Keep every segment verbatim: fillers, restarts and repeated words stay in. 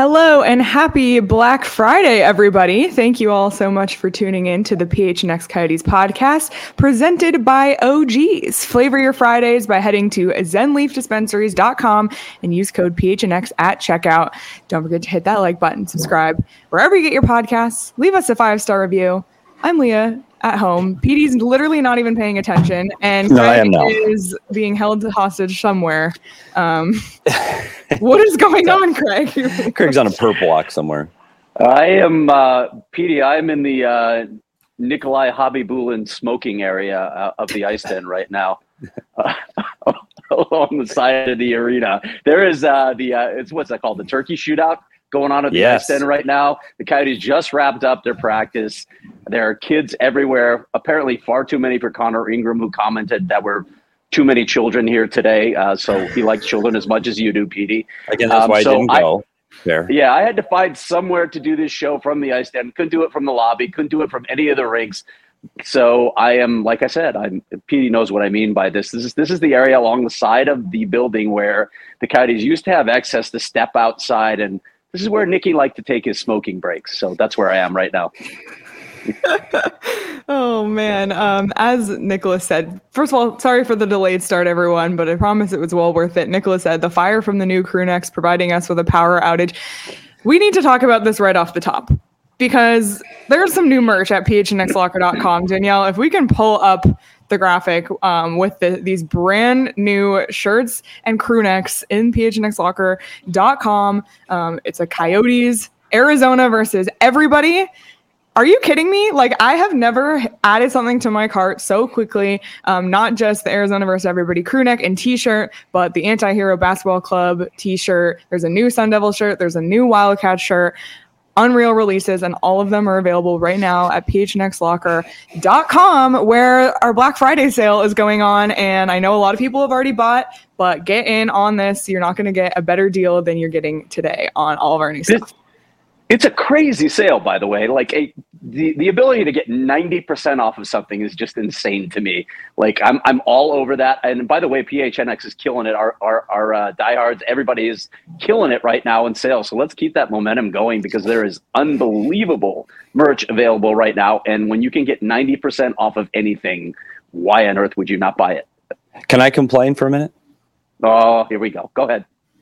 Hello and happy Black Friday, everybody. Thank you all so much for tuning in to the P H N X Coyotes podcast presented by O Gs. Flavor your Fridays by heading to zen leaf dispensaries dot com and use code P H N X at checkout. Don't forget to hit that like button, subscribe wherever you get your podcasts. Leave us a five-star review. I'm Leah at home. P D's literally not even paying attention, and no, Craig is being held hostage somewhere. Um, what is going on, Craig? Craig's on a perp walk somewhere. I am, uh, P D, I'm in the uh, Nikolai Habibulin smoking area uh, of the ice den right now. Uh, on the side of the arena. There is uh, the, uh, it's what's that called? The turkey shootout going on at the yes. ice den right now. The Coyotes just wrapped up their practice. There are kids everywhere. Apparently far too many for Connor Ingram, who commented that we're too many children here today. Uh, so he likes children as much as you do, P D. Again, that's um, why so I didn't go I, there. Yeah, I had to find somewhere to do this show from the ice den. Couldn't do it from the lobby. Couldn't do it from any of the rinks. So I am, like I said, I'm P D knows what I mean by this. This is this is the area along the side of the building where the Coyotes used to have access to step outside, and this is where Nicky liked to take his smoking breaks. So that's where I am right now. Oh, man. Um, as Nicholas said, first of all, sorry for the delayed start, everyone, but I promise it was well worth it. Nicholas said, the fire from the new crew necks providing us with a power outage. We need to talk about this right off the top because there's some new merch at P H N X locker dot com. Danielle, if we can pull up the graphic um, with the, these brand new shirts and crew necks in P H N X locker dot com. Um, it's a Coyotes, Arizona versus everybody. Are you kidding me? Like, I have never added something to my cart so quickly. Um, not just the Arizona versus everybody crew neck and t-shirt, but the Anti-Hero Basketball Club t-shirt. There's a new Sun Devil shirt. There's a new Wildcat shirt. Unreal releases, and all of them are available right now at P H N X locker dot com, where our Black Friday sale is going on. And I know a lot of people have already bought, but get in on this. You're not going to get a better deal than you're getting today on all of our new stuff. It's a crazy sale, by the way. Like a, the, the ability to get ninety percent off of something is just insane to me. Like I'm I'm all over that. And by the way, P H N X is killing it. Our our, our uh, diehards, everybody is killing it right now in sales. So let's keep that momentum going because there is unbelievable merch available right now. And when you can get ninety percent off of anything, why on earth would you not buy it? Can I complain for a minute? Oh, here we go. Go ahead.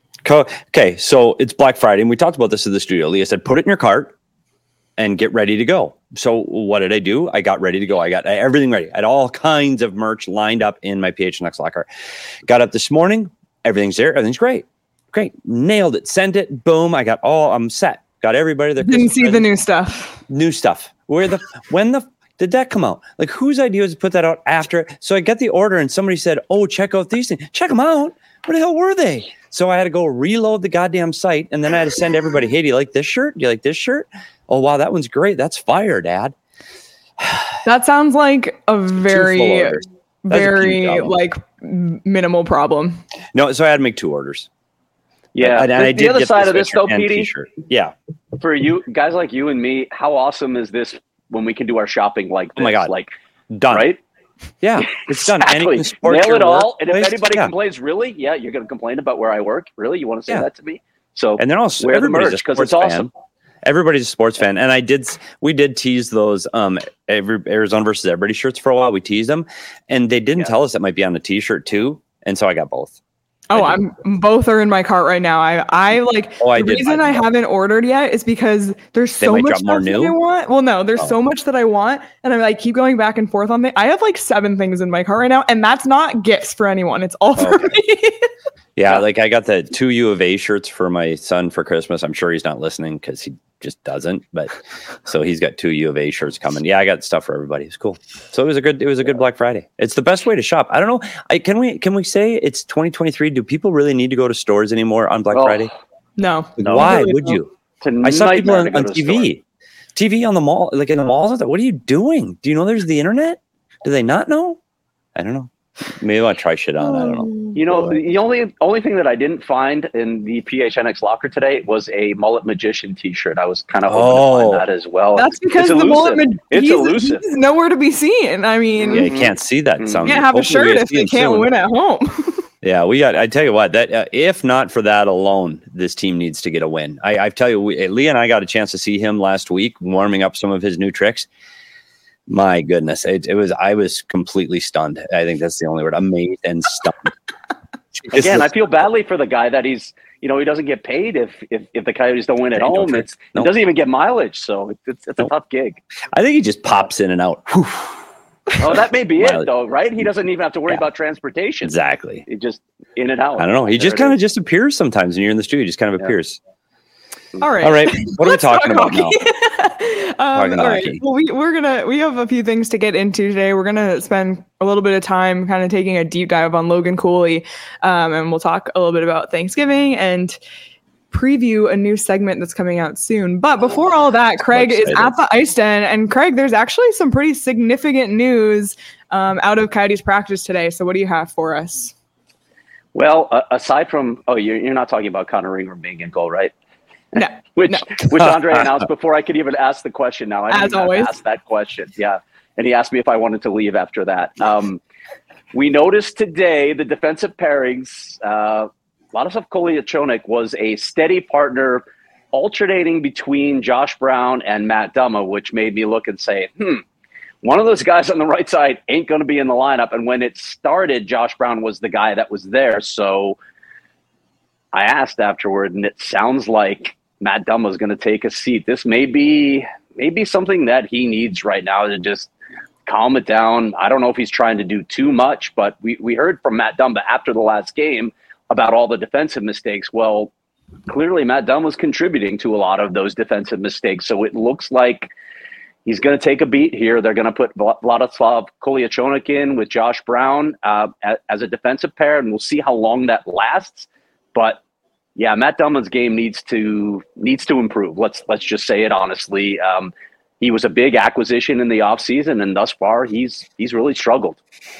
Okay, so it's Black Friday, and we talked about this in the studio. Leah said, put it in your cart and get ready to go. So what did I do? I got ready to go. I got everything ready. I had all kinds of merch lined up in my P H N X locker. Got up this morning. Everything's there. Everything's great. Great. Nailed it. Sent it. Boom. I got all, I'm set. Got everybody there. Didn't see the new stuff. New stuff. Where the, when the, did that come out? Like, whose idea was to put that out after it? So I got the order, and somebody said, oh, check out these things. Check them out. Where the hell were they? So I had to go reload the goddamn site, and then I had to send everybody, hey, do you like this shirt? Do you like this shirt? Oh, wow, that one's great. That's fire, Dad. That sounds like a very, very, a like, minimal problem. No, so I had to make two orders. Yeah. And, and the, I did the other get side of this, though, P D, yeah. For you guys like you and me, how awesome is this when we can do our shopping like this? Oh, my God. Like, done. Right? Yeah, it's exactly. done. And you Nail it all. And if anybody yeah. complains, really? Yeah, you're going to complain about where I work? Really? You want to say yeah. that to me? So, and then also, wear the everybody's merch because it's fan. awesome. Everybody's a sports fan. And I did, we did tease those um, every, Arizona versus everybody shirts for a while. We teased them. And they didn't yeah. tell us that might be on the t-shirt too. And so I got both. Oh, I'm both are in my cart right now. I, I like oh, I the did, reason I, I haven't ordered yet is because there's so much stuff that I want. Well, no, there's oh. so much that I want, and I'm like keep going back and forth on it. I have like seven things in my cart right now, and that's not gifts for anyone. It's all for okay. me. Yeah, like I got the two U of A shirts for my son for Christmas. I'm sure he's not listening because he just doesn't. But so he's got two U of A shirts coming. Yeah, I got stuff for everybody. It's cool. So it was a good. It was a good Black Friday. It's the best way to shop. I don't know. I, can we can we say it's twenty twenty-three? Do people really need to go to stores anymore on Black oh, Friday? No. Like, no why really would you? I saw people on, on T V, T V on the mall, like in the malls. What are you doing? Do you know there's the internet? Do they not know? I don't know. Maybe I want to try shit on. I don't know. You know, the only only thing that I didn't find in the P H N X locker today was a Mullet Magician T-shirt. I was kind of hoping oh, to find that as well. That's because it's the Mullet Magician it's elusive. He's nowhere to be seen. I mean, yeah, you can't see that. You can't have a shirt if they can't soon. win at home. Yeah, we got. I tell you what, that uh, if not for that alone, this team needs to get a win. I, I tell you, we, Lee and I got a chance to see him last week warming up some of his new tricks. My goodness, it, it was. I was completely stunned. I think that's the only word. Amazed and stunned. Again, I feel badly for the guy that he's. You know, he doesn't get paid if if, if the Coyotes don't win at home. It's, nope. It doesn't even get mileage, so it's it's nope. a tough gig. I think he just pops in and out. Whew. Oh, that may be it, though, right? He doesn't even have to worry yeah. about transportation. Exactly. He just in and out. I don't know. He there just kind of just appears sometimes when you're in the studio. He just kind of yeah. appears. All right. All right. What are we talking about now? um, all right. Hockey. Well, we, we're going to, we have a few things to get into today. We're going to spend a little bit of time kind of taking a deep dive on Logan Cooley. Um, and we'll talk a little bit about Thanksgiving and preview a new segment that's coming out soon. But before all that, Craig is at the Ice Den. And Craig, there's actually some pretty significant news um, out of Coyotes practice today. So what do you have for us? Well, uh, aside from, oh, you're, you're not talking about Connor Ingram being in goal, right? No, which no. which Andre announced before I could even ask the question. Now I didn't As always. ask that question. Yeah, and he asked me if I wanted to leave after that. Um, we noticed today the defensive pairings. Uh, Vladislav Kolyachonok was a steady partner, alternating between Josh Brown and Matt Dumba, which made me look and say, "Hmm, one of those guys on the right side ain't going to be in the lineup." And when it started, Josh Brown was the guy that was there. So I asked afterward, and it sounds like Matt Dumba is going to take a seat. This may be maybe something that he needs right now to just calm it down. I don't know if he's trying to do too much, but we, we heard from Matt Dumba after the last game about all the defensive mistakes. Well, clearly Matt Dumba was contributing to a lot of those defensive mistakes. So it looks like he's going to take a beat here. They're going to put Vladislav Kolyachonok in with Josh Brown uh, as a defensive pair, and we'll see how long that lasts. But yeah, Matt Dumba's game needs to needs to improve. Let's let's just say it honestly. Um, he was a big acquisition in the offseason, and thus far he's he's really struggled.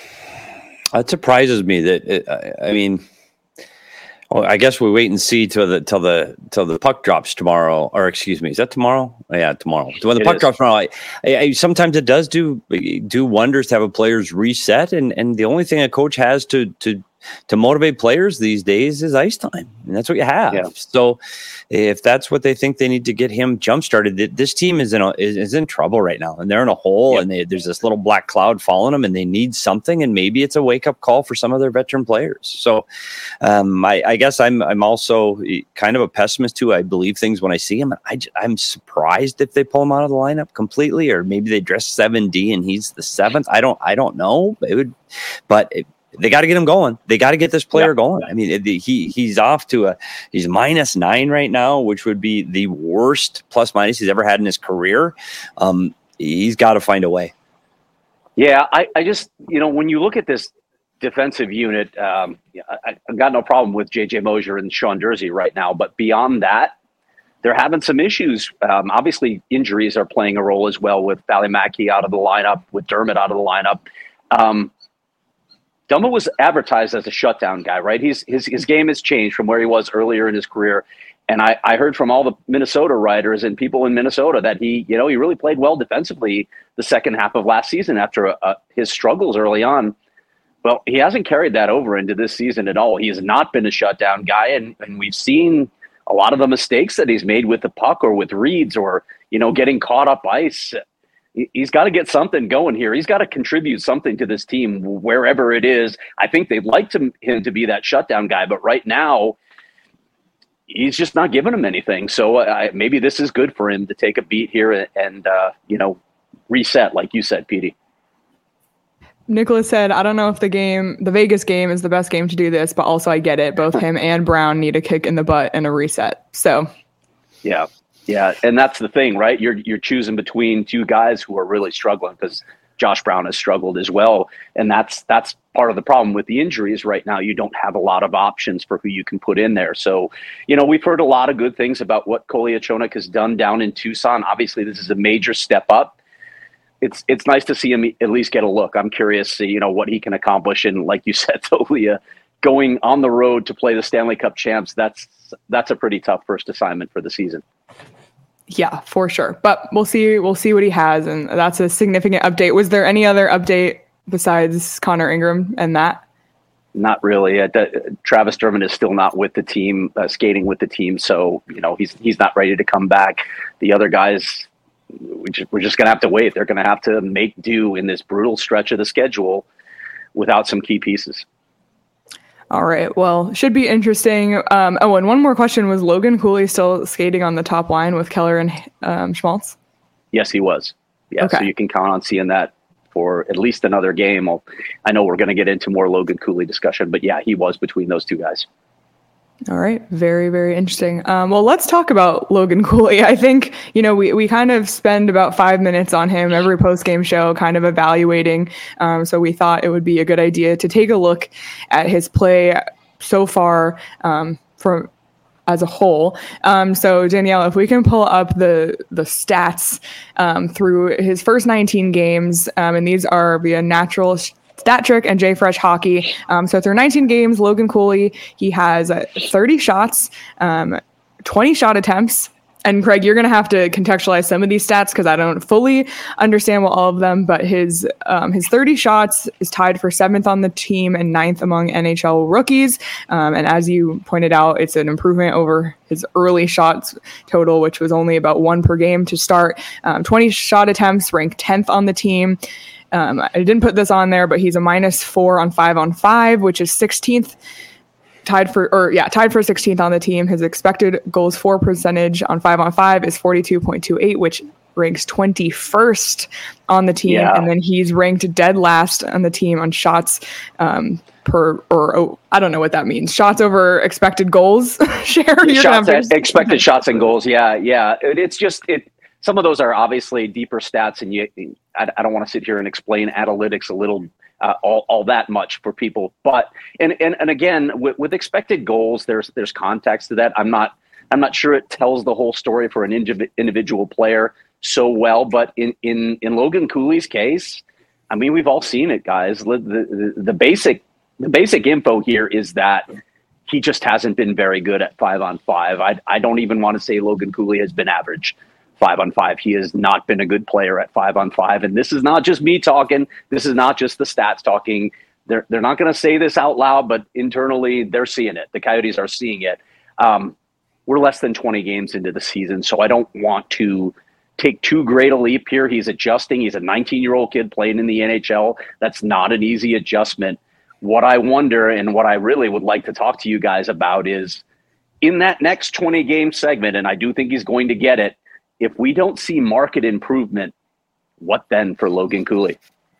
It surprises me that it, I mean, well, I guess we wait and see till the till the till the puck drops tomorrow, or excuse me, is that tomorrow? Oh, yeah, tomorrow. When the it puck is. drops tomorrow, I, I, I, sometimes it does do do wonders to have a player's reset, and and the only thing a coach has to to. to motivate players these days is ice time. And that's what you have. Yeah. So if that's what they think they need to get him jump started, this team is in a, is, is in trouble right now, and they're in a hole. Yep. And they, there's this little black cloud following them, and they need something. And maybe it's a wake up call for some of their veteran players. So um, I, I guess I'm, I'm also kind of a pessimist too. I believe things when I see him. I, I'm surprised if they pull him out of the lineup completely, or maybe they dress seven D and he's the seventh. I don't, I don't know. It would, but it, they got to get him going. They got to get this player yeah. going. I mean, it, he he's off to a he's minus nine right now, which would be the worst plus minus he's ever had in his career. Um, he's got to find a way. Yeah, I, I just you know when you look at this defensive unit, um, I, I've got no problem with J J Mosier and Sean Durzi right now, but beyond that, they're having some issues. Um, obviously, injuries are playing a role as well, with Valimaki out of the lineup, with Dermott out of the lineup. Um, Dumba was advertised as a shutdown guy, right? He's his his game has changed from where he was earlier in his career. And I, I heard from all the Minnesota writers and people in Minnesota that he, you know, he really played well defensively the second half of last season after uh, his struggles early on. Well, he hasn't carried that over into this season at all. He has not been a shutdown guy, and, and we've seen a lot of the mistakes that he's made with the puck or with reads or, you know, getting caught up ice. He's got to get something going here. He's got to contribute something to this team wherever it is. I think they'd like to, him to be that shutdown guy, but right now he's just not giving him anything. So uh, maybe this is good for him to take a beat here and, and uh, you know, reset, like you said, Petey. Nicholas said, I don't know if the game, the Vegas game is the best game to do this, but also I get it. Both him and Brown need a kick in the butt and a reset. So, yeah. Yeah, and that's the thing, right? You're you're choosing between two guys who are really struggling, because Josh Brown has struggled as well, and that's that's part of the problem with the injuries right now. You don't have a lot of options for who you can put in there. So, you know, we've heard a lot of good things about what Kolyachonok has done down in Tucson. Obviously, this is a major step up. It's it's nice to see him at least get a look. I'm curious, you know, what he can accomplish, and like you said, Tolia, going on the road to play the Stanley Cup champs, that's that's a pretty tough first assignment for the season. Yeah, for sure. But we'll see. We'll see what he has, and that's a significant update. Was there any other update besides Connor Ingram and that? Not really. Uh, the, Travis Dermott is still not with the team, uh, skating with the team. So, you know, he's he's not ready to come back. The other guys, we just, we're just going to have to wait. They're going to have to make do in this brutal stretch of the schedule without some key pieces. All right. Well, should be interesting. Um, oh, and one more question. Was Logan Cooley still skating on the top line with Keller and um, Schmaltz? Yes, he was. Yeah, okay. So you can count on seeing that for at least another game. I'll, I know we're going to get into more Logan Cooley discussion, but yeah, he was between those two guys. All right. Very, very interesting. Um, well, let's talk about Logan Cooley. I think, you know, we, we kind of spend about five minutes on him every post-game show kind of evaluating. Um, so we thought it would be a good idea to take a look at his play so far um, from as a whole. Um, so Danielle, if we can pull up the the stats um, through his first nineteen games, um, and these are via Natural Stat Trick and JFresh Hockey. Um, so through nineteen games, Logan Cooley, he has uh, thirty shots, um, twenty shot attempts. And Craig, you're going to have to contextualize some of these stats because I don't fully understand well, all of them. But his um, his thirty shots is tied for seventh on the team and ninth among N H L rookies. Um, and as you pointed out, it's an improvement over his early shots total, which was only about one per game to start. Um, twenty shot attempts, ranked tenth on the team. Um, I didn't put this on there, but he's a minus four on five on five, which is sixteenth. Tied for, or yeah, tied for sixteenth on the team. His expected goals for percentage on five on five is forty-two point two eight, which ranks twenty-first on the team. Yeah. And then he's ranked dead last on the team on shots um, per, or oh, I don't know what that means. Shots over expected goals share. Shots at, expected shots and goals. Yeah, yeah. It, it's just it. Some of those are obviously deeper stats, and you. I, I don't want to sit here and explain analytics a little. Uh, all, all that much for people. But and and, and again, with, with expected goals, there's there's context to that. I'm not I'm not sure it tells the whole story for an indiv- individual player so well. But in, in, in Logan Cooley's case, I mean, we've all seen it, guys. The, the, the basic the basic info here is that he just hasn't been very good at five on five. I I don't even want to say Logan Cooley has been average. Five on five. He has not been a good player at five on five. And this is not just me talking. This is not just the stats talking. They're they're not going to say this out loud, but internally they're seeing it. The Coyotes are seeing it. Um, we're less than twenty games into the season, so I don't want to take too great a leap here. He's adjusting. He's a nineteen-year-old kid playing in the N H L. That's not an easy adjustment. What I wonder and what I really would like to talk to you guys about is in that next twenty-game segment, and I do think he's going to get it, if we don't see market improvement, what then for Logan Cooley?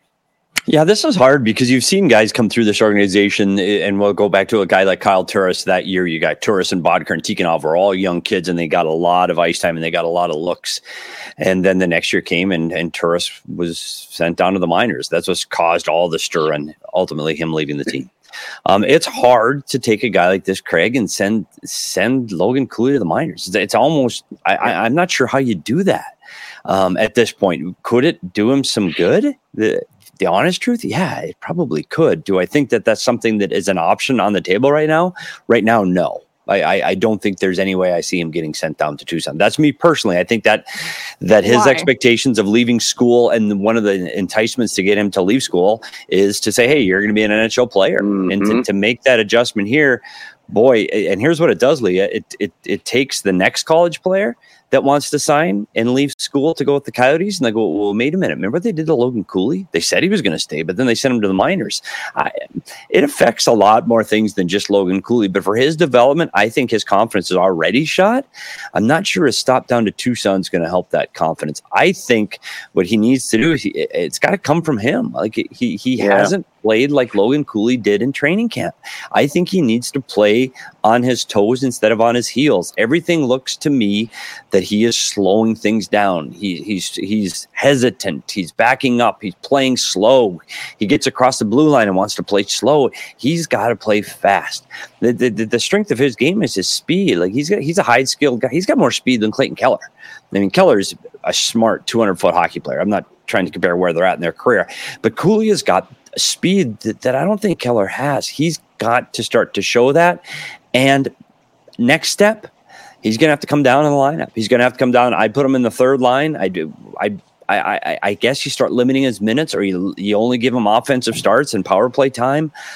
Yeah, this is hard because you've seen guys come through this organization, and we'll go back to a guy like Kyle Turris that year. You got Turris and Bodker and Tikhonov were all young kids, and they got a lot of ice time and they got a lot of looks. And then the next year came, and, and Turris was sent down to the minors. That's what caused all the stir and ultimately him leaving the team. Um, it's hard to take a guy like this, Craig, and send send Logan Cooley to the minors. It's, it's almost I, I, I'm not sure how you do that um, at this point. Could it do him some good? The, the honest truth, yeah, it probably could. Do I think that that's something that is an option on the table right now? Right now, no. I, I, I don't think there's any way I see him getting sent down to Tucson. That's me personally. I think that that his Why? expectations of leaving school, and one of the enticements to get him to leave school is to say, hey, you're going to be an N H L player. Mm-hmm. And to, to make that adjustment here, boy, and here's what it does, Leah. It, it, it takes the next college player that wants to sign and leave school to go with the Coyotes, and they go, well, wait a minute. Remember what they did to Logan Cooley? They said he was going to stay, but then they sent him to the minors. I, it affects a lot more things than just Logan Cooley, but for his development, I think his confidence is already shot. I'm not sure a stop down to Tucson is going to help that confidence. I think what he needs to do is he, it's got to come from him. Like he he yeah. hasn't played like Logan Cooley did in training camp. I think he needs to play on his toes instead of on his heels. Everything looks to me that he is slowing things down. He, he's he's hesitant. He's backing up. He's playing slow. He gets across the blue line and wants to play slow. He's got to play fast. The, the the strength of his game is his speed. Like he's got he's a high skilled guy. He's got more speed than Clayton Keller. I mean, Keller's a smart two hundred foot hockey player. I'm not trying to compare where they're at in their career, but Cooley has got speed that, that I don't think Keller has. He's got to start to show that. And next step, he's going to have to come down in the lineup. He's going to have to come down. I put him in the third line. I do. I, I, I, I guess you start limiting his minutes, or you, you only give him offensive starts and power play time.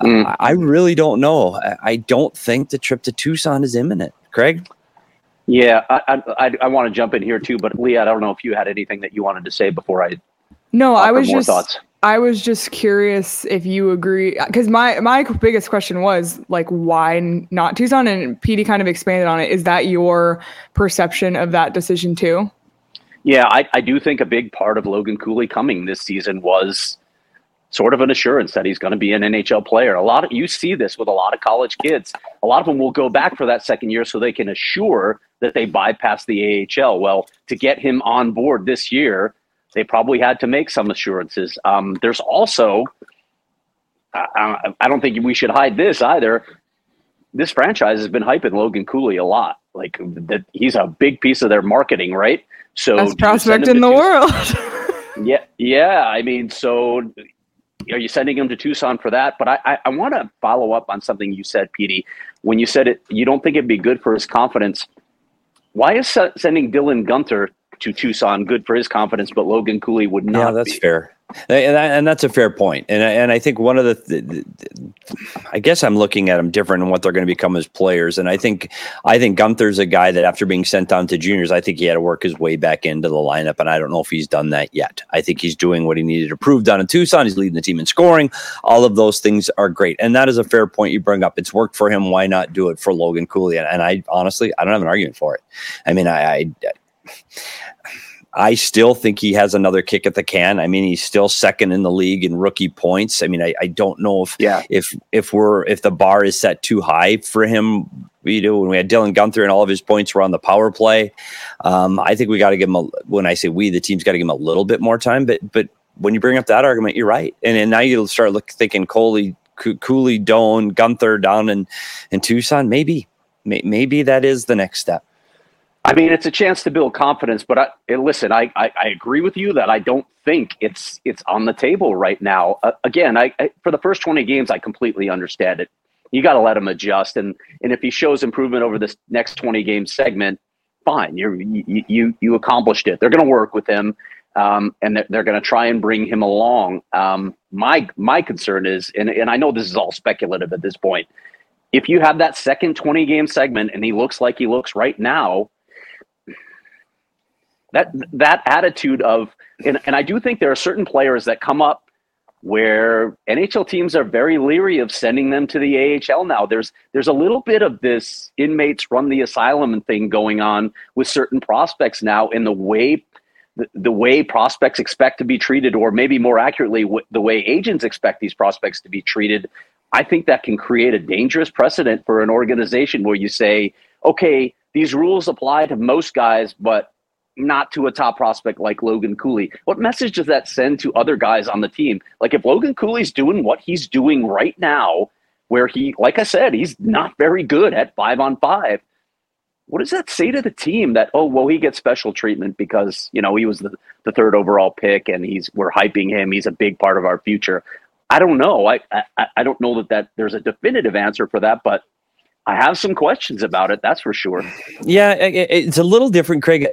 Mm. I, I really don't know. I, I don't think the trip to Tucson is imminent. Craig? Yeah, I I, I want to jump in here too, but Leah, I don't know if you had anything that you wanted to say before I. No, I was just. Thoughts. I was just curious if you agree, because my my biggest question was like, why not Tucson? And Petey kind of expanded on it. Is that your perception of that decision too? Yeah, I, I do think a big part of Logan Cooley coming this season was sort of an assurance that he's going to be an N H L player. A lot of you see this with a lot of college kids. A lot of them will go back for that second year so they can assure that they bypass the A H L. Well, to get him on board this year, they probably had to make some assurances. Um, there's also, I, I don't think we should hide this either. This franchise has been hyping Logan Cooley a lot. Like that, he's a big piece of their marketing, right? So best prospect in the world. yeah, yeah. I mean, so are you sending him to Tucson for that? But I, I, I want to follow up on something you said, Petey. When you said it, you don't think it'd be good for his confidence. Why is sending Dylan Guenther to Tucson good for his confidence, but Logan Cooley would not? Yeah, that's be? fair. And, and that's a fair point. And, and I think one of the, the, the, I guess I'm looking at them different and what they're going to become as players. And I think, I think Gunther's a guy that after being sent down to juniors, I think he had to work his way back into the lineup. And I don't know if he's done that yet. I think he's doing what he needed to prove down in Tucson. He's leading the team in scoring. All of those things are great. And that is a fair point you bring up. It's worked for him. Why not do it for Logan Cooley? And, and I honestly, I don't have an argument for it. I mean, I, I I still think he has another kick at the can. I mean, he's still second in the league in rookie points. I mean, I, I don't know if yeah. if if we're if the bar is set too high for him. You know, when we had Dylan Guenther and all of his points were on the power play, um, I think we got to give him. A, when I say we, the team's got to give him a little bit more time. But but when you bring up that argument, you're right. And and now you start look thinking Cooley, Cooley, Doan, Guenther down in in Tucson. Maybe maybe that is the next step. I mean, it's a chance to build confidence, but I, listen, I, I, I agree with you that I don't think it's it's on the table right now. Uh, again, I, I for the first twenty games, I completely understand it. You got to let him adjust, and and if he shows improvement over this next twenty game segment, fine. You're, you you you accomplished it. They're going to work with him, um, and they're, they're going to try and bring him along. Um, my my concern is, and and I know this is all speculative at this point. If you have that second twenty game segment and he looks like he looks right now. That that attitude of, and, and I do think there are certain players that come up where N H L teams are very leery of sending them to the A H L now. There's there's a little bit of this inmates run the asylum thing going on with certain prospects now in the way the, the way prospects expect to be treated, or maybe more accurately, w- the way agents expect these prospects to be treated. I think that can create a dangerous precedent for an organization where you say, okay, these rules apply to most guys, but not to a top prospect like Logan Cooley. What message does that send to other guys on the team? Like if Logan Cooley's doing what he's doing right now, where he, like I said, he's not very good at five on five. What does that say to the team that, oh, well, he gets special treatment because, you know, he was the, the third overall pick and he's, we're hyping him. He's a big part of our future. I don't know. I, I, I don't know that, that there's a definitive answer for that, but I have some questions about it. That's for sure. Yeah, it's a little different, Craig,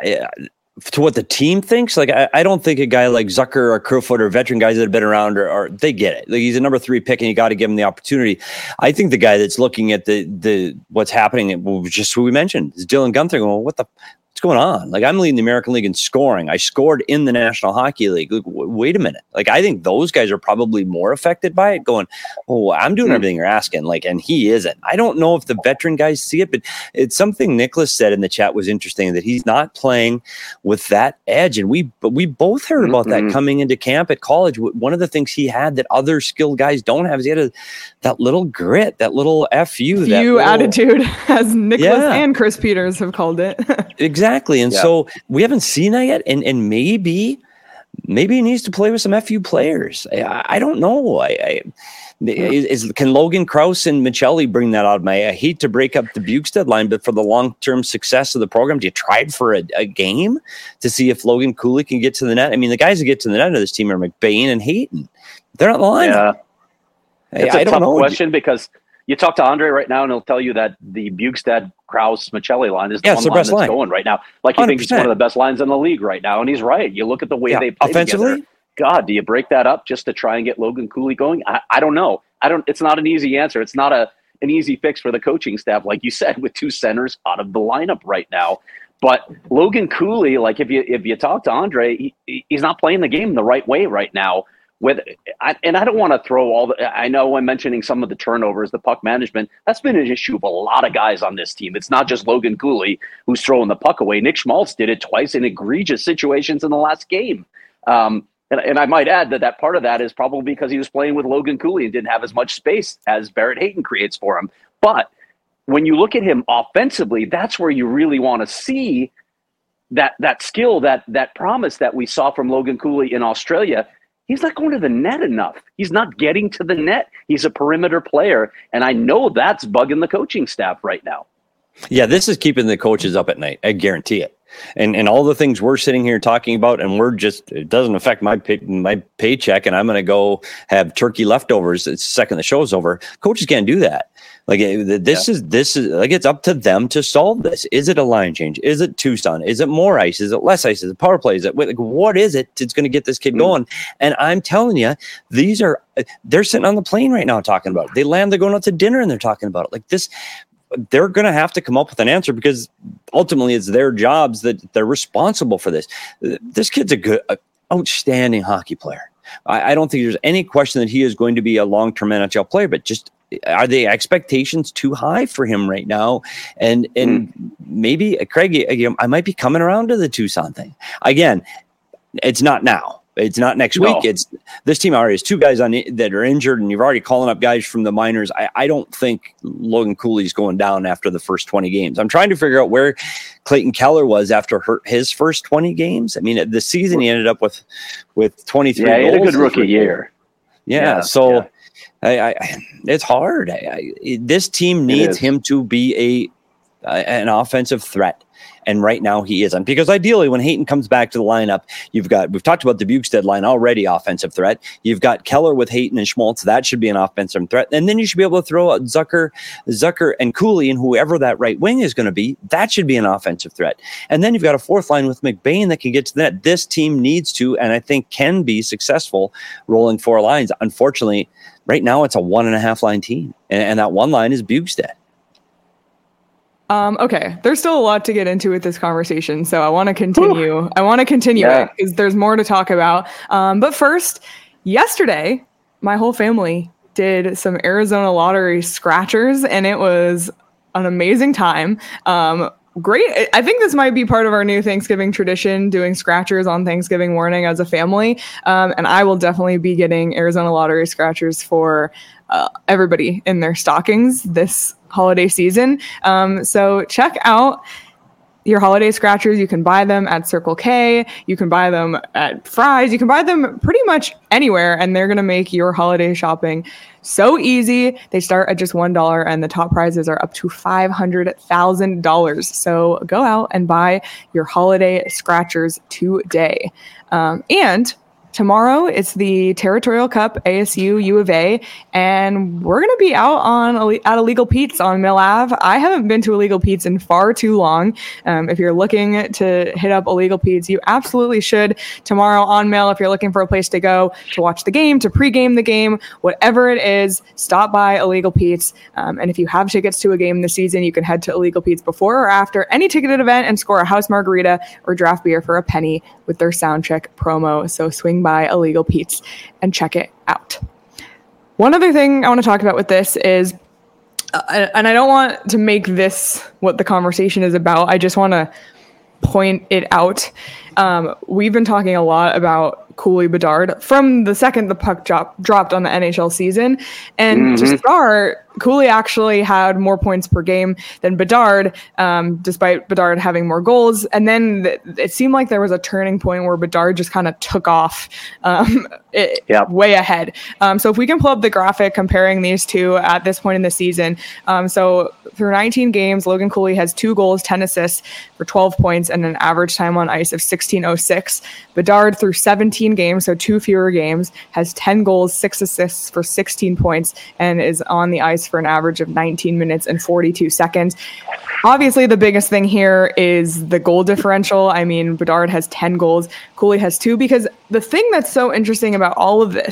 to what the team thinks. Like, I, I don't think a guy like Zucker or Kerfoot or veteran guys that have been around or, or they get it. Like, he's a number three pick, and you got to give him the opportunity. I think the guy that's looking at the the what's happening, just who we mentioned, is Dylan Guenther. Going, well, what the. What's going on? Like, I'm leading the American League in scoring. I scored in the National Hockey League. Like, w- wait a minute. Like, I think those guys are probably more affected by it going, oh, I'm doing everything you're asking. Like, and he isn't. I don't know if the veteran guys see it, but it's something Nicholas said in the chat was interesting, that he's not playing with that edge. And we, but we both heard about mm-hmm. that coming into camp at college. One of the things he had that other skilled guys don't have is he had a, that little grit, that little F U, that you little, attitude, as Nicholas yeah. and Chris Peters have called it. Exactly. Exactly. And yeah. so we haven't seen that yet. And and maybe, maybe he needs to play with some F U players. I, I don't know. I, I is, is can Logan Krause and Michelli bring that out of my, I hate to break up the Bukestad line, but for the long-term success of the program, do you try it for a, a game to see if Logan Cooley can get to the net? I mean, the guys that get to the net of this team are McBain and Hayton. They're not the line. Yeah. It's I, a I don't tough know. question because you talk to Andre right now and he'll tell you that the Bukestad Krause Michelli line is the yeah, one the line best that's line. going right now. Like you one hundred percent. think it's one of the best lines in the league right now. And he's right. You look at the way yeah. they play offensively. together. God, do you break that up just to try and get Logan Cooley going? I, I don't know. I don't. It's not an easy answer. It's not a an easy fix for the coaching staff, like you said, with two centers out of the lineup right now. But Logan Cooley, like if you if you talk to Andre, he, he's not playing the game the right way right now. With I, and I don't want to throw all the. I know I'm mentioning some of the turnovers, the puck management. That's been an issue of a lot of guys on this team. It's not just Logan Cooley who's throwing the puck away. Nick Schmaltz did it twice in egregious situations in the last game. Um, and, and I might add that that part of that is probably because he was playing with Logan Cooley and didn't have as much space as Barrett Hayton creates for him. But when you look at him offensively, that's where you really want to see that that skill, that that promise that we saw from Logan Cooley in Australia. He's not going to the net enough. He's not getting to the net. He's a perimeter player, and I know that's bugging the coaching staff right now. Yeah, this is keeping the coaches up at night. I guarantee it. And and all the things we're sitting here talking about, and we're just, it doesn't affect my pay, my paycheck, and I'm going to go have turkey leftovers the second the show's over. Coaches can't do that. Like this yeah. is this is like it's up to them to solve this. Is it a line change? Is it Tucson? Is it more ice? Is it less ice? Is it power play? Is it like what is it that's going to get this kid mm. going? And I'm telling you, these are they're sitting on the plane right now talking about it. They land, they're going out to dinner, and they're talking about it. Like this, they're going to have to come up with an answer because ultimately it's their jobs that they're responsible for this. This kid's a good, a outstanding hockey player. I, I don't think there's any question that he is going to be a long-term N H L player, but just are the expectations too high for him right now? And and mm. maybe Craig, you know, I might be coming around to the Tucson thing again. It's not now. It's not next no. week. It's this team already has two guys on that are injured, and you're already calling up guys from the minors. I, I don't think Logan Cooley's going down after the first twenty games. I'm trying to figure out where Clayton Keller was after her, his first twenty games. I mean, the season he ended up with with twenty-three. Yeah, he had goals a good rookie year. Yeah, yeah so. Yeah. I, I, it's hard. I, I, this team needs him to be a uh, an offensive threat, and right now he isn't. Because ideally, when Hayton comes back to the lineup, you've got we've talked about the Bukestad line already, offensive threat. You've got Keller with Hayton and Schmaltz. That should be an offensive threat, and then you should be able to throw out Zucker, Zucker and Cooley, and whoever that right wing is going to be. That should be an offensive threat, and then you've got a fourth line with McBain that can get to the net. This team needs to, and I think can be successful rolling four lines. Unfortunately. Right now, it's a one and a half line team, and, and that one line is Bukestad. Um, okay, there's still a lot to get into with this conversation, so I want to continue. Whew. I want to continue yeah. it because there's more to talk about. Um, but first, yesterday, my whole family did some Arizona Lottery scratchers, and it was an amazing time. Um, Great. I think this might be part of our new Thanksgiving tradition, doing scratchers on Thanksgiving morning as a family. Um, and I will definitely be getting Arizona Lottery scratchers for uh, everybody in their stockings this holiday season. Um, so check out your holiday scratchers. You can buy them at Circle K. You can buy them at Fry's. You can buy them pretty much anywhere, and they're going to make your holiday shopping so easy. They start at just one dollar, and the top prizes are up to five hundred thousand dollars. So go out and buy your holiday scratchers today. Um, and tomorrow, it's the Territorial Cup, A S U, U of A, and we're going to be out on at Illegal Pete's on Mill Ave. I haven't been to Illegal Pete's in far too long. Um, if you're looking to hit up Illegal Pete's, you absolutely should. Tomorrow on Mill, if you're looking for a place to go to watch the game, to pregame the game, whatever it is, stop by Illegal Pete's. Um, and if you have tickets to a game this season, you can head to Illegal Pete's before or after any ticketed event and score a house margarita or draft beer for a penny with their sound check promo. So swing by by Illegal Pete's and check it out. One other thing I want to talk about with this is, uh, and I don't want to make this what the conversation is about, I just want to point it out. Um, we've been talking a lot about Cooley Bedard from the second the puck drop, dropped on the N H L season. And mm-hmm. to start, Cooley actually had more points per game than Bedard, um, despite Bedard having more goals. And then th- it seemed like there was a turning point where Bedard just kind of took off um, it, yep. way ahead. Um, so if we can pull up the graphic comparing these two at this point in the season. Um, so through nineteen games, Logan Cooley has two goals, ten assists for twelve points and an average time on ice of sixteen oh six. Bedard through seventeen games, so two fewer games, has ten goals, six assists for sixteen points and is on the ice for an average of nineteen minutes and forty-two seconds. Obviously, the biggest thing here is the goal differential. I mean, Bedard has ten goals, Cooley has two, because the thing that's so interesting about all of this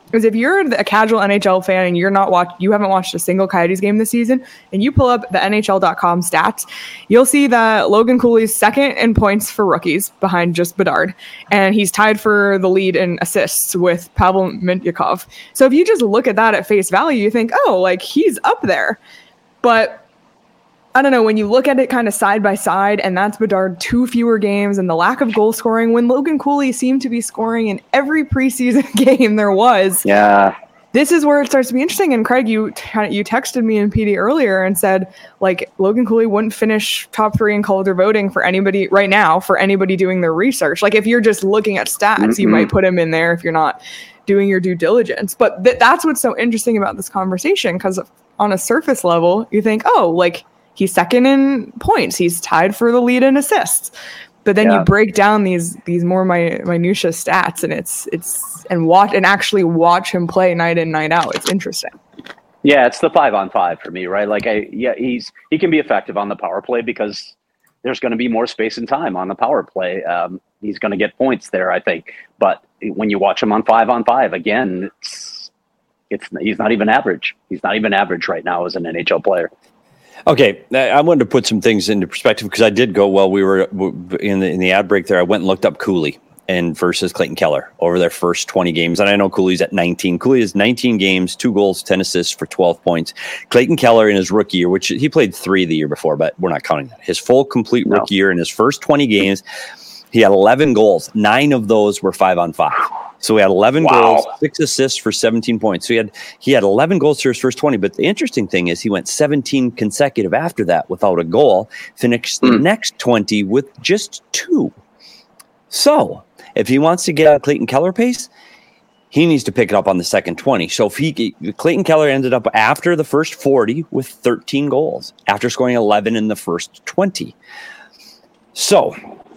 is if you're a casual N H L fan and you're not watch, you haven't watched a single Coyotes game this season, and you pull up the N H L dot com stats, you'll see that Logan Cooley's second in points for rookies behind just Bedard, and he's tied for the lead in assists with Pavel Mintyukov. So if you just look at that at face value, you think, oh, like he's up there. But I don't know, when you look at it kind of side by side, and that's Bedard two fewer games and the lack of goal scoring, when Logan Cooley seemed to be scoring in every preseason game there was. Yeah. This is where it starts to be interesting. And Craig, you t- you texted me and P D earlier and said, like, Logan Cooley wouldn't finish top three in Calder voting for anybody right now, for anybody doing their research. Like, if you're just looking at stats, mm-hmm. you might put him in there if you're not doing your due diligence. But th- that's what's so interesting about this conversation, because on a surface level, you think, oh, like, he's second in points. He's tied for the lead in assists. But then yeah. you break down these these more mi- minutia stats, and it's it's and watch and actually watch him play night in, night out. It's interesting. Yeah, it's the five on five for me, right? Like, I yeah, he's he can be effective on the power play because there's going to be more space and time on the power play. Um, he's going to get points there, I think. But when you watch him on five on five, again, it's it's he's not even average. He's not even average right now as an N H L player. Okay, I wanted to put some things into perspective because I did go while we were in the in the ad break there. I went and looked up Cooley and versus Clayton Keller over their first twenty games, and I know Cooley's at nineteen. Cooley has nineteen games, two goals, ten assists for twelve points. Clayton Keller in his rookie year, which he played three the year before, but we're not counting that. His full complete no. rookie year in his first twenty games, he had eleven goals. Nine of those were five on five. So he had eleven wow. goals, six assists for seventeen points. So he had he had eleven goals through his first twenty. But the interesting thing is he went seventeen consecutive after that without a goal, finished mm. the next twenty with just two. So if he wants to get out Clayton Keller pace, he needs to pick it up on the second twenty. So if he Clayton Keller ended up after the first forty with thirteen goals, after scoring eleven in the first twenty. So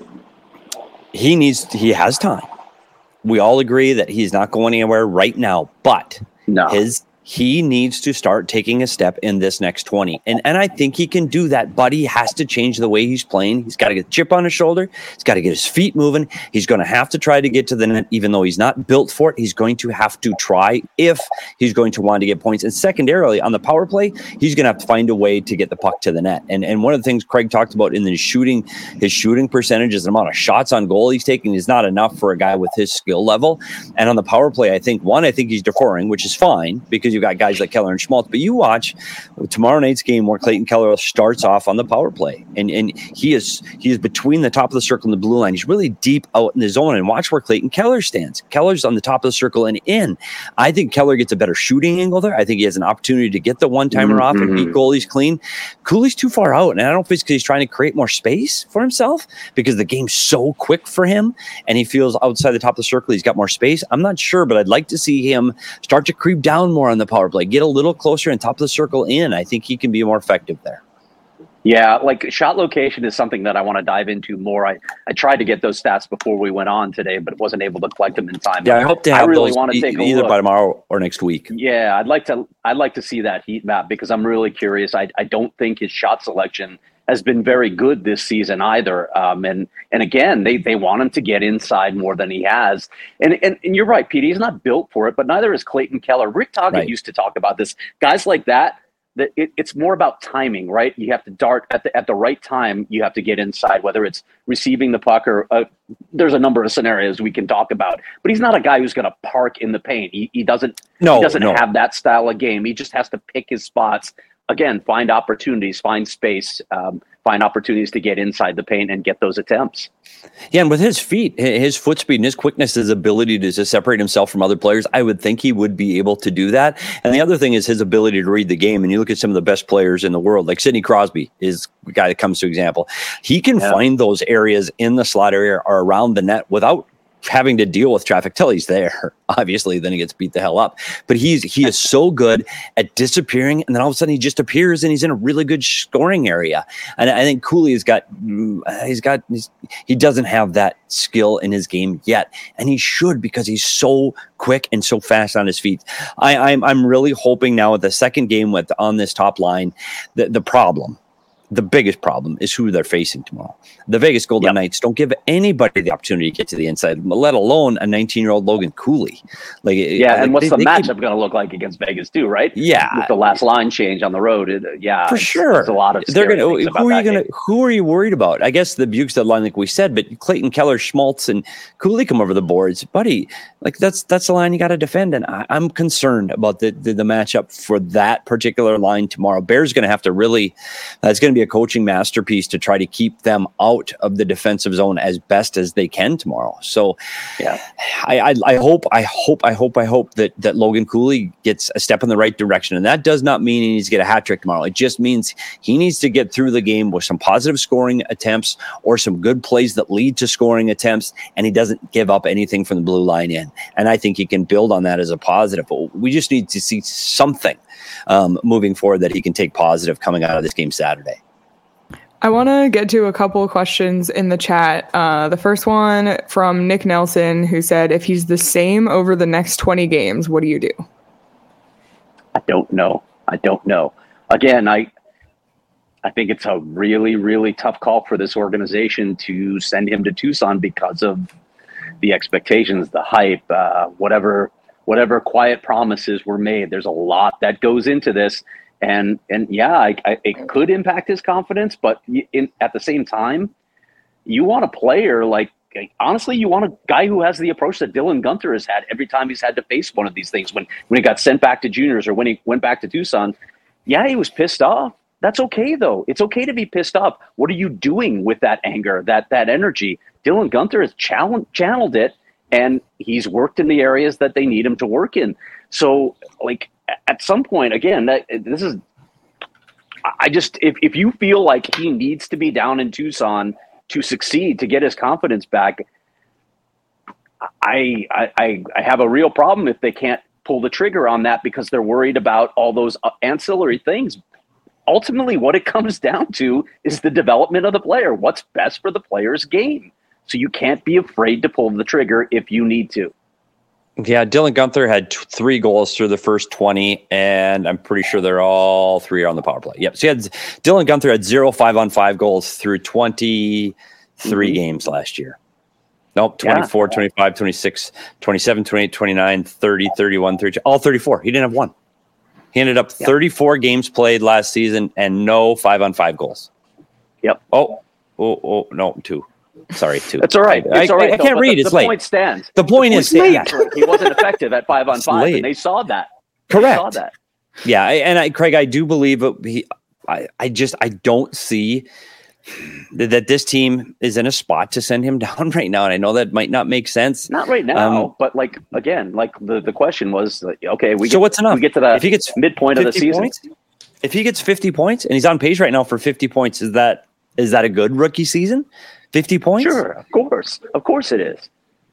he needs he has time. We all agree that he's not going anywhere right now, but no. his he needs to start taking a step in this next twenty. And and I think he can do that, but he has to change the way he's playing. He's got to get a chip on his shoulder. He's got to get his feet moving. He's going to have to try to get to the net, even though he's not built for it. He's going to have to try if he's going to want to get points. And secondarily, on the power play, he's going to have to find a way to get the puck to the net. And and one of the things Craig talked about in the shooting, his shooting percentages, the amount of shots on goal he's taking is not enough for a guy with his skill level. And on the power play, I think, one, I think he's deferring, which is fine because you've got guys like Keller and Schmaltz. But you watch tomorrow night's game where Clayton Keller starts off on the power play, and and he is he is between the top of the circle and the blue line. He's really deep out in the zone, and watch where Clayton Keller stands. Keller's on the top of the circle and in. I think Keller gets a better shooting angle there. I think he has an opportunity to get the one-timer mm-hmm. off and beat goalies clean. Cooley's too far out, and I don't know if it's because he's trying to create more space for himself because the game's so quick for him, and he feels outside the top of the circle he's got more space. I'm not sure, but I'd like to see him start to creep down more on the power play, get a little closer and top of the circle in. I think he can be more effective there. Yeah, like shot location is something that I want to dive into more. I, I tried to get those stats before we went on today, but wasn't able to collect them in time. Yeah, I hope to have I really those want to take e- either look. by tomorrow or next week. Yeah, I'd like to I'd like to see that heat map because I'm really curious. I I don't think his shot selection has been very good this season either. Um, and and again, they they want him to get inside more than he has. And and, and you're right, Pete, he's not built for it, but neither is Clayton Keller. Rick Tocchet right. used to talk about this. Guys like that, that it, it's more about timing, right? You have to dart at the at the right time. You have to get inside, whether it's receiving the puck or uh, there's a number of scenarios we can talk about. But he's not a guy who's going to park in the paint. He, he doesn't. No, he doesn't no. have that style of game. He just has to pick his spots. Again, find opportunities, find space, um, find opportunities to get inside the paint and get those attempts. Yeah, and with his feet, his foot speed and his quickness, his ability to, to separate himself from other players, I would think he would be able to do that. And the other thing is his ability to read the game. And you look at some of the best players in the world, like Sidney Crosby is the guy that comes to example. He can yeah. find those areas in the slot area or around the net without having to deal with traffic till he's there. Obviously, then he gets beat the hell up. But he's he is so good at disappearing, and then all of a sudden he just appears and he's in a really good scoring area. And I think Cooley has got he's got he's, he doesn't have that skill in his game yet, and he should because he's so quick and so fast on his feet. I, I'm I'm really hoping now with the second game with on this top line, the the problem. the biggest problem is who they're facing tomorrow. The Vegas Golden yep. Knights don't give anybody the opportunity to get to the inside, let alone a nineteen-year-old Logan Cooley. Like, yeah, like and what's they, the they matchup going to look like against Vegas too, right? Yeah, with the last line change on the road, it, yeah, for it's, sure. It's a lot of they're going to. Who are you going to? Who are you worried about? I guess the Bukestad line, like we said, but Clayton Keller, Schmaltz, and Cooley come over the boards, buddy. Like that's that's the line you got to defend, and I, I'm concerned about the, the the matchup for that particular line tomorrow. Bears going to have to really. That's going to be a coaching masterpiece to try to keep them out of the defensive zone as best as they can tomorrow. So, yeah, I, I, I hope, I hope, I hope, I hope that that Logan Cooley gets a step in the right direction, and that does not mean he needs to get a hat trick tomorrow. It just means he needs to get through the game with some positive scoring attempts or some good plays that lead to scoring attempts, and he doesn't give up anything from the blue line in. And I think he can build on that as a positive. But we just need to see something um, moving forward that he can take positive coming out of this game Saturday. I want to get to a couple of questions in the chat. Uh, the first one from Nick Nelson, who said, if he's the same over the next twenty games, what do you do? I don't know. I don't know. Again, I I think it's a really, really tough call for this organization to send him to Tucson because of the expectations, the hype, uh, whatever whatever quiet promises were made. There's a lot that goes into this. And and yeah, I, I, it could impact his confidence, but in, at the same time, you want a player like, honestly, you want a guy who has the approach that Dylan Guenther has had every time he's had to face one of these things. When when he got sent back to juniors or when he went back to Tucson, yeah, he was pissed off. That's okay, though. It's okay to be pissed off. What are you doing with that anger, that that energy? Dylan Guenther has channeled, channeled it, and he's worked in the areas that they need him to work in. So, like, at some point, again, that this is, I just, if, if you feel like he needs to be down in Tucson to succeed, to get his confidence back, I, I, I have a real problem if they can't pull the trigger on that because they're worried about all those ancillary things. Ultimately, what it comes down to is the development of the player, what's best for the player's game. So you can't be afraid to pull the trigger if you need to. Yeah, Dylan Guenther had t- three goals through the first twenty, and I'm pretty sure they're all three on the power play. Yep. So he had Dylan Guenther had zero five on five goals through twenty-three mm-hmm. games last year. Nope, twenty-four, yeah. twenty-five, twenty-six, twenty-seven, twenty-eight, twenty-nine, thirty, thirty-one, thirty-two, all thirty-four. He didn't have one. He ended up yep. thirty-four games played last season and no five on five goals. Yep. Oh, oh, oh, no, two. Sorry, two. That's all right. It's I, all right. I, I can't though, read. The, it's the late. Point stands. The point the is late. He wasn't effective at five on it's five, late. and they saw that. Correct. They saw that. Yeah, I, and I, Craig, I do believe it, he. I, I just I don't see that, that this team is in a spot to send him down right now, and I know that might not make sense. Not right now, um, but like again, like the, the question was, like, okay, we so get, what's enough? We get to the if he gets midpoint of the season. Points, if he gets fifty points and he's on pace right now for fifty points, is that is that a good rookie season? fifty points? Sure, of course. Of course it is.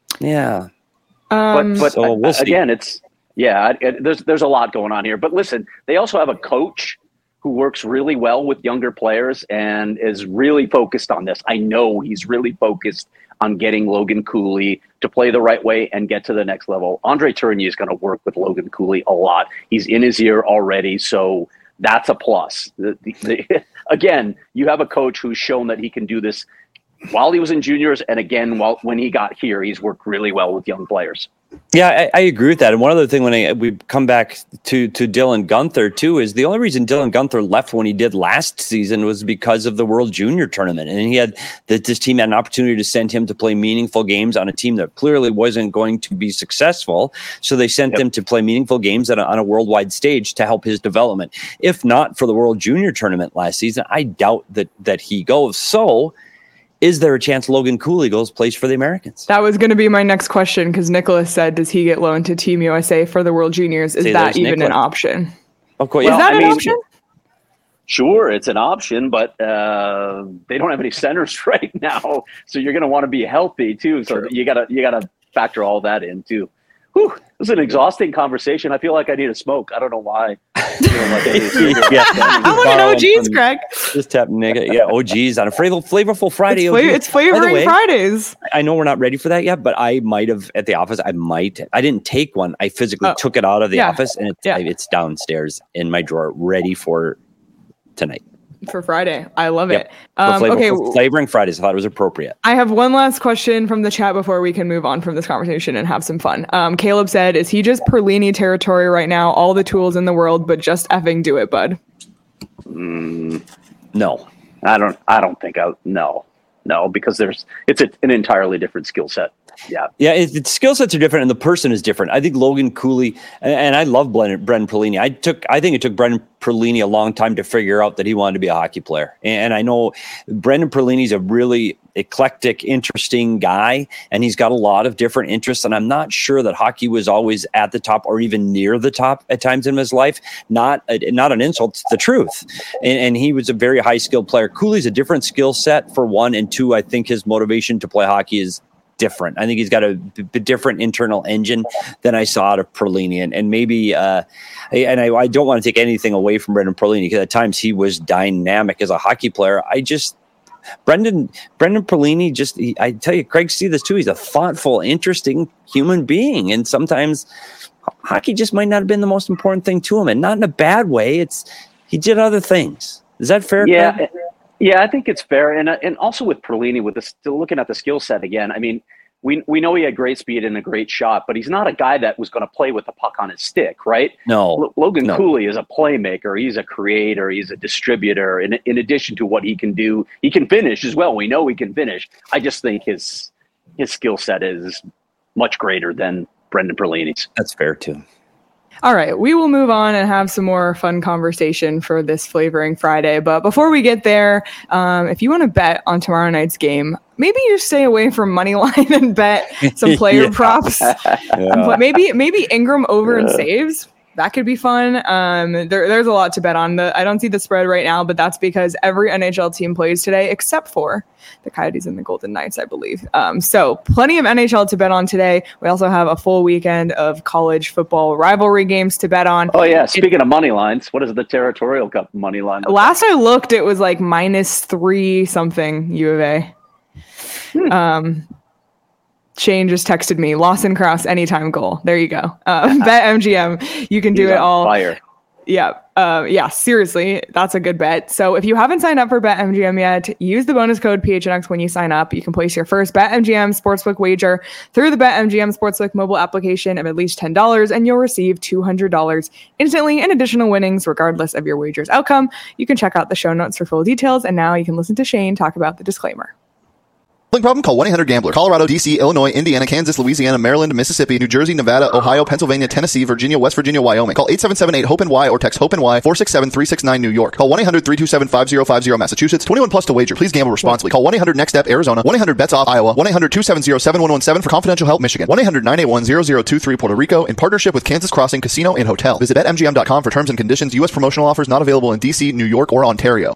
Yeah. Um, but but so we'll again, it's, yeah, it, there's there's a lot going on here. But listen, they also have a coach who works really well with younger players and is really focused on this. I know he's really focused on getting Logan Cooley to play the right way and get to the next level. Andre Tourigny is going to work with Logan Cooley a lot. He's in his ear already, so that's a plus. The, the, the, again, you have a coach who's shown that he can do this while he was in juniors, and again, while when he got here, he's worked really well with young players. Yeah, I, I agree with that. And one other thing, when I, we come back to to Dylan Guenther too, is the only reason Dylan Guenther left when he did last season was because of the World Junior Tournament, and he had that this team had an opportunity to send him to play meaningful games on a team that clearly wasn't going to be successful. So they sent yep. him to play meaningful games at a, on a worldwide stage to help his development. If not for the World Junior Tournament last season, I doubt that that he goes. So. Is there a chance Logan Cooley goes plays for the Americans? That was going to be my next question because Nicholas said, does he get loaned to Team U S A for the World Juniors? Is See, that even Nicholas. An option? Of course. Well, is that I an mean, option? Sure, it's an option, but uh, they don't have any centers right now. So you're going to want to be healthy too. So True. you got to you got to factor all that in too. Whew, it was an exhausting conversation. I feel like I need a smoke. I don't know why. Like yeah. I want an O G's, Craig. Just tap nigga. Yeah, O G's on a flavor, flavorful Friday. It's, flavor, it's flavoring way, Fridays. I know we're not ready for that yet, but I might have at the office. I might. I didn't take one. I physically oh. took it out of the yeah. office, and it's, yeah. I, it's downstairs in my drawer, ready for tonight. for Friday. I love Yep. it. Um, flavor, okay. Flavoring Fridays. I thought it was appropriate. I have one last question from the chat before we can move on from this conversation and have some fun. Um, Caleb said, is he just Perlini territory right now? All the tools in the world, but just effing do it, bud. Mm, No. I don't. I don't think I. No, no, because there's. It's a, an entirely different skill set. Yeah. Yeah, it, it, skill sets are different, and the person is different. I think Logan Cooley, and, and I love Brendan, Brendan Perlini. I took, I think it took Brendan Perlini a long time to figure out that he wanted to be a hockey player. And, and I know Brendan Perlini is a really eclectic, interesting guy, and he's got a lot of different interests. And I'm not sure that hockey was always at the top or even near the top at times in his life. Not, a, not an insult, it's the truth. And, and he was a very high skilled player. Cooley's a different skill set for one, and two, I think his motivation to play hockey is different. I think he's got a b- b- different internal engine than I saw out of Perlini. And, and maybe, uh, and I, I don't want to take anything away from Brendan Perlini, because at times he was dynamic as a hockey player. I just, Brendan, Brendan Perlini, just, he, I tell you, Craig, see this too. He's a thoughtful, interesting human being. And sometimes hockey just might not have been the most important thing to him, and not in a bad way. It's, he did other things. Is that fair? Yeah. Craig? Yeah, I think it's fair, and uh, and also with Perlini, with the still looking at the skill set again. I mean, we we know he had great speed and a great shot, but he's not a guy that was going to play with the puck on his stick, right? No. L- Logan no. Cooley is a playmaker. He's a creator. He's a distributor. In in addition to what he can do, he can finish as well. We know he can finish. I just think his his skill set is much greater than Brendan Perlini's. That's fair too. All right, we will move on and have some more fun conversation for this Flavoring Friday. But before we get there, um, if you want to bet on tomorrow night's game, maybe you stay away from Moneyline and bet some player Yeah. props. Yeah. Maybe maybe Ingram over and saves. That could be fun. Um, there, there's a lot to bet on. The, I don't see the spread right now, but that's because every N H L team plays today except for the Coyotes and the Golden Knights, I believe. Um, so plenty of N H L to bet on today. We also have a full weekend of college football rivalry games to bet on. Oh yeah, speaking it, of money lines, what is the Territorial Cup money line? Last I looked, it was like minus three something U of A. Hmm. Um, Shane just texted me, Lawson Cross anytime goal. There you go. Uh, bet M G M. You can do He's it all. Fire. Yeah. Uh, yeah, seriously, that's a good bet. So if you haven't signed up for BetMGM yet, use the bonus code P H N X when you sign up. You can place your first BetMGM Sportsbook wager through the BetMGM Sportsbook mobile application of at least ten dollars, and you'll receive two hundred dollars instantly in additional winnings, regardless of your wager's outcome. You can check out the show notes for full details, and now you can listen to Shane talk about the disclaimer. Problem? Call one eight hundred gambler. Colorado, D C, Illinois, Indiana, Kansas, Louisiana, Maryland, Mississippi, New Jersey, Nevada, Ohio, Pennsylvania, Tennessee, Virginia, West Virginia, Wyoming. Call eight seven seven eight hope N Y or text hope N Y four six seven three six nine New York. Call one eight hundred three two seven five zero five zero Massachusetts. twenty-one plus to wager. Please gamble responsibly. Call one eight hundred next step Arizona. one eight hundred bets off Iowa. one eight hundred two seven zero seven one one seven for confidential help Michigan. one eight hundred nine eight one zero zero two three Puerto Rico in partnership with Kansas Crossing Casino and Hotel. Visit bet M G M dot com for terms and conditions. U S promotional offers not available in D C, New York, or Ontario.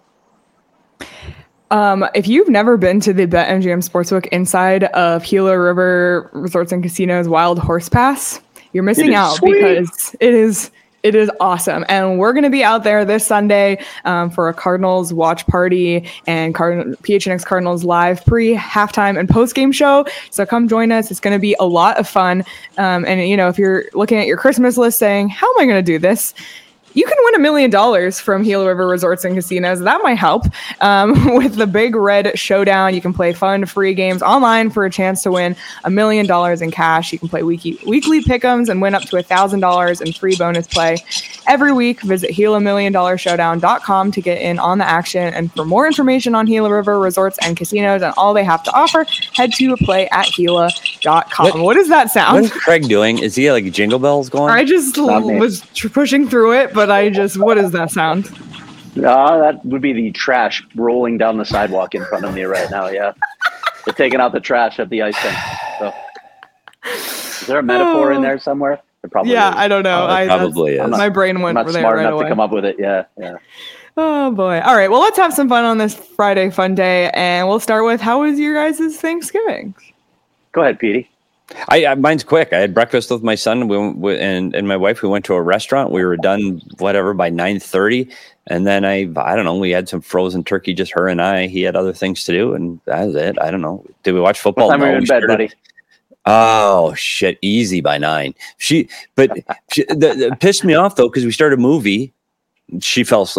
Um, if you've never been to the BetMGM Sportsbook inside of Gila River Resorts and Casinos Wild Horse Pass, you're missing out sweet. because it is it is awesome. And we're going to be out there this Sunday um, for a Cardinals watch party and Card- P H N X Cardinals live pre, halftime, and post-game show. So come join us. It's going to be a lot of fun. Um, and, you know, if you're looking at your Christmas list saying, how am I going to do this? You can win a million dollars from Gila River Resorts and Casinos. That might help. Um, with the Big Red Showdown, you can play fun, free games online for a chance to win a million dollars in cash. You can play weekly, weekly pick'ems and win up to one thousand dollars in free bonus play every week. Visit Gila Million Dollar Showdown dot com to get in on the action. And for more information on Gila River Resorts and Casinos and all they have to offer, head to play at Gila dot com. What, what does that sound? What's Craig doing? Is he like jingle bells going? I just l- was tr- pushing through it, but I just, what does that sound? Uh, that would be the trash rolling down the sidewalk in front of me right now, yeah. They're taking out the trash at the ice rink. So. Is there a metaphor oh. in there somewhere? There probably yeah, is. I don't know. Oh, I, probably is. Not, my brain went I'm not there smart right enough away. to come up with it, yeah, yeah. Oh, boy. All right, well, let's have some fun on this Friday fun day, and we'll start with, how was your guys' Thanksgiving? Go ahead, Petey. I, I mine's quick. I had breakfast with my son we, we, and and my wife. We went to a restaurant. We were done whatever by nine thirty, and then I I don't know. We had some frozen turkey, just her and I. He had other things to do, and that was it. I don't know. Did we watch football? What time no, were you in bed, buddy? Oh shit! Easy by nine. She, but she, the, the, pissed me off though because we started a movie. She fell asleep.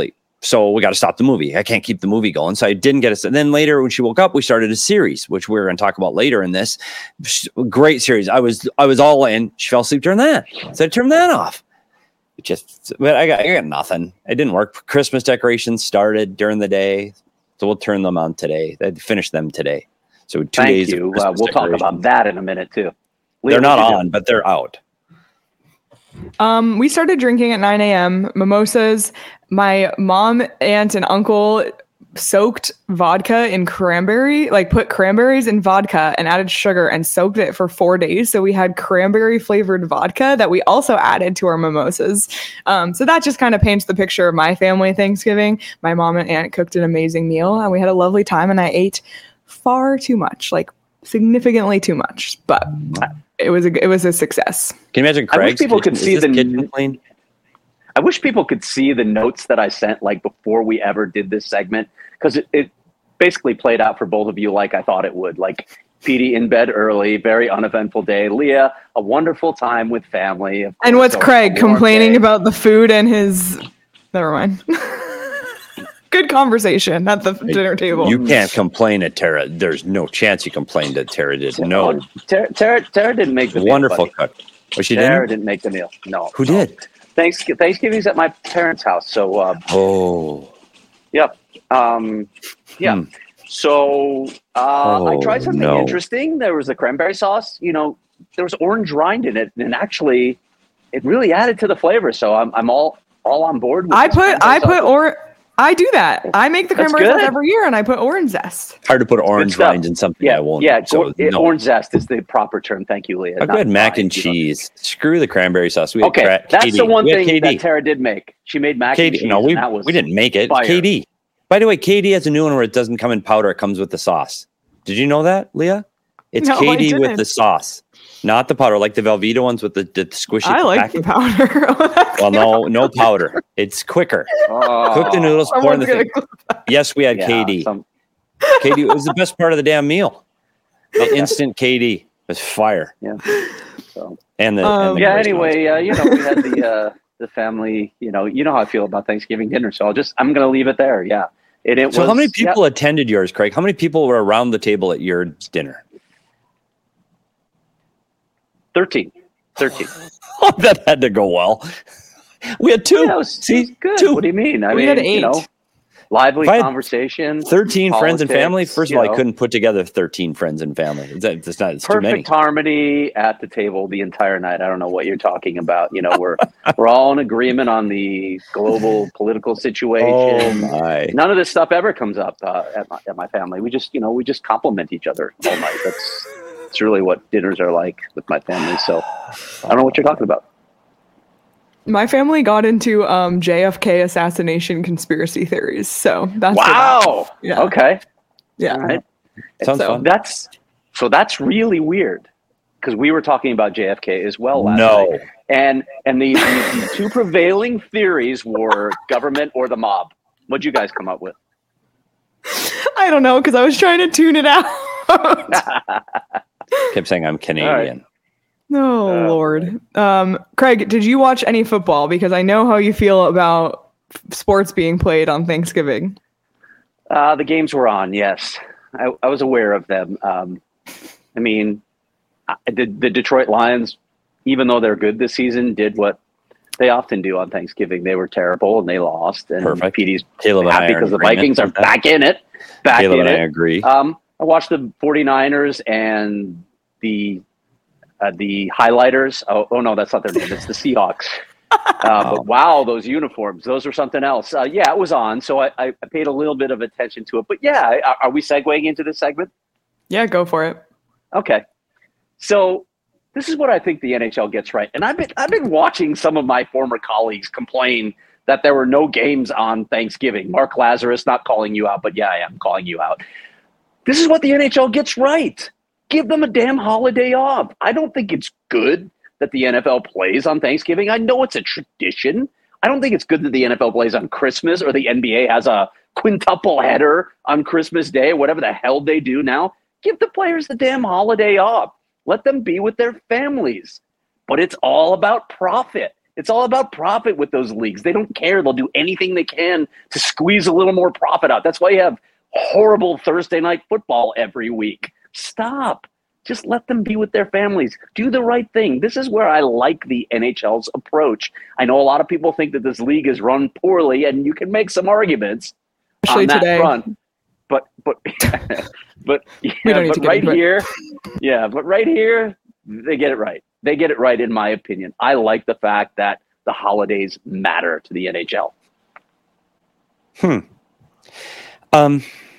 So we got to stop the movie. I can't keep the movie going. So I didn't get us. And then later when she woke up, we started a series, which we're going to talk about later in this. Great series. I was, I was all in. She fell asleep during that. So I turned that off. It just, but I got, I got nothing. It didn't work. Christmas decorations started during the day. So we'll turn them on today. I finished them today. So two Thank days. you. Uh, we'll talk about that in a minute too. Leah, they're not on, but they're out. Um, we started drinking at nine a.m. mimosas. My mom, aunt, and uncle soaked vodka in cranberry, like put cranberries in vodka and added sugar and soaked it for four days. So we had cranberry flavored vodka that we also added to our mimosas. Um, so that just kind of paints the picture of my family Thanksgiving. My mom and aunt cooked an amazing meal and we had a lovely time, and I ate far too much, like significantly too much, but it was a, it was a success. Can you imagine Craig's I wish people kitchen, could see the kitchen clean? I wish people could see the notes that I sent like before we ever did this segment, because it, it basically played out for both of you like I thought it would. Like Petey in bed early, very uneventful day. Leah, a wonderful time with family. Of course, and what's a, Craig a warm complaining day. about the food and his? Never mind. Good conversation at the dinner table. You can't complain at Tara. There's no chance you complained that Tara did. No. Tara, Tara, Tara didn't make the meal. Wonderful buddy. cook. Oh, she Tara didn't? didn't make the meal. No. Who no. did? Thanks, Thanksgiving's at my parents' house. So, uh, Oh. yep. Um, yeah. Hmm. So uh, Oh, I tried something no. interesting. There was the cranberry sauce. You know, there was orange rind in it, and actually, it really added to the flavor. So I'm I'm all all on board. With I this put cranberry I put sauce. or I do that. I make the That's cranberry sauce good. every year, and I put orange zest. Hard to put orange stuff. rinds in something Yeah, I won't. yeah. So, or- it- no. Orange zest is the proper term. Thank you, Leah. I've Not had mac rind, and you know. cheese. Screw the cranberry sauce. We had Okay, cra- that's K D. the one We had thing K D. that Tara did make. She made mac K and D. cheese. No, we, and that was we didn't make it. fire. K D. By the way, K D has a new one where it doesn't come in powder. It comes with the sauce. Did you know that, Leah? It's No, I K D with didn't. the sauce, not the powder, like the Velveeta ones with the, the squishy I like packet. the powder. Well, no, no powder. It's quicker. Oh. Cook the noodles, pour in the Someone's thing. gonna- Yes, we had Yeah, K D. some- K D was the best part of the damn meal. The instant K D was fire. Yeah. So. And the, Um, and the Yeah. Christmas. Anyway, uh, you know, we had the uh, the family. You know, you know how I feel about Thanksgiving dinner. So I'll just I'm going to leave it there. Yeah. It, it So was, how many people yeah, attended yours, Craig? How many people were around the table at your dinner? thirteen. thirteen. Oh, that had to go well. We had two. Yeah, it was, See, it was good. two. What do you mean? I We mean, had you eight. know, lively If I had conversation. thirteen friends and family. politics, First of you all, know. I couldn't put together thirteen friends and family. It's, it's not. It's too many. Perfect harmony at the table the entire night. I don't know what you're talking about. You know, we're we're all in agreement on the global political Oh situation. my! None of this stuff ever comes up uh, at, my, at my family. We just, you know, we just compliment each other all night. That's that's really what dinners are like with my family. So I don't know what you're talking about. My family got into um, J F K assassination conspiracy theories, so that's what Wow. that- yeah, Okay. yeah. All right. Sounds so fun. That's so that's really weird because we were talking about J F K as well last No. night. And and the, the, the two prevailing theories were government or the mob. What'd you guys come up with? I don't know because I was trying to tune it out. Kept saying I'm Canadian. Oh Uh, Lord, um, Craig, did you watch any football? Because I know how you feel about f- sports being played on Thanksgiving. Uh, the games were on, yes. I, I was aware of them. Um, I mean, I, the, the Detroit Lions, even though they're good this season, did what they often do on Thanksgiving. They were terrible and they lost. And Perfect. Petey's Caleb and I happy are in because the agreement Vikings are on that. back in it. Back Caleb in and I it. agree. Um, I watched the 49ers and the uh, the highlighters. Oh, oh, no, that's not their name. It's the Seahawks. Uh, but wow, those uniforms, those were something else. Uh, yeah, it was on. So I, I I paid a little bit of attention to it. But yeah, are, are we segueing into this segment? Yeah, go for it. Okay. So this is what I think the N H L gets right. And I've been I've been watching some of my former colleagues complain that there were no games on Thanksgiving. Mark Lazarus, not calling you out, but yeah, I am calling you out. This is what the N H L gets right. Give them a damn holiday off. I don't think it's good that the N F L plays on Thanksgiving. I know it's a tradition. I don't think it's good that the N F L plays on Christmas or the N B A has a quintuple header on Christmas Day, whatever the hell they do now. Give the players the damn holiday off. Let them be with their families. But it's all about profit. It's all about profit with those leagues. They don't care. They'll do anything they can to squeeze a little more profit out. That's why you have horrible Thursday night football every week. Stop. Just let them be with their families. Do the right thing. This is where I like the N H L's approach. I know a lot of people think that this league is run poorly, and you can make some arguments Especially on that today. front. But but but, yeah, but right here, yeah, but right here, they get it right. They get it right, in my opinion. I like the fact that the holidays matter to the N H L. Hmm. Um.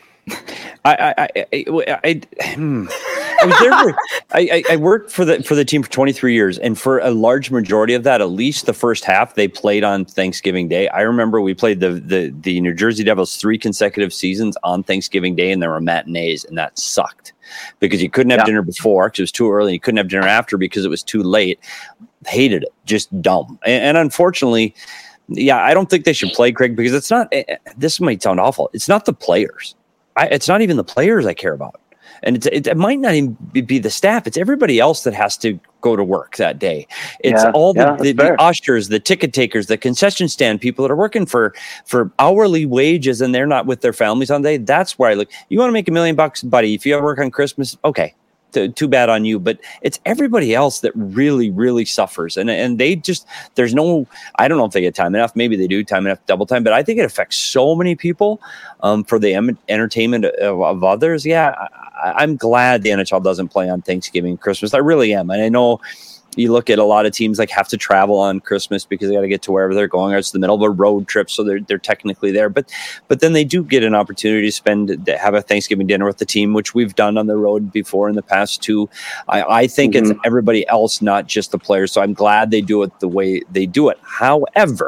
I I I I, I, hmm. I was there for, I, I worked for the for the team for twenty-three years, and for a large majority of that, at least the first half, they played on Thanksgiving Day. I remember we played the the the New Jersey Devils three consecutive seasons on Thanksgiving Day, and there were matinees, and that sucked because you couldn't have yeah. dinner before because it was too early. You couldn't have dinner after because it was too late. Hated it, just dumb, and, and unfortunately. Yeah, I don't think they should play, Craig, because it's not. This might sound awful. It's not the players. I, it's not even the players I care about. And it's, it, it might not even be the staff. It's everybody else that has to go to work that day. It's yeah, all the, yeah, the, the ushers, the ticket takers, the concession stand people that are working for, for hourly wages and they're not with their families on the day. That's where I look. You want to make a million bucks, buddy. If you ever work on Christmas, okay. Too bad on you, but it's everybody else that really, really suffers. And and they just, there's no, I don't know if they get time enough. Maybe they do time enough, double time, but I think it affects so many people um, for the em- entertainment of, of others. Yeah, I, I'm glad the N H L doesn't play on Thanksgiving, Christmas. I really am. And I know you look at a lot of teams like have to travel on Christmas because they got to get to wherever they're going, or it's the middle of a road trip. So they're, they're technically there, but, but then they do get an opportunity to spend, to have a Thanksgiving dinner with the team, which we've done on the road before in the past too. I, I think mm-hmm. it's everybody else, not just the players. So I'm glad they do it the way they do it. However,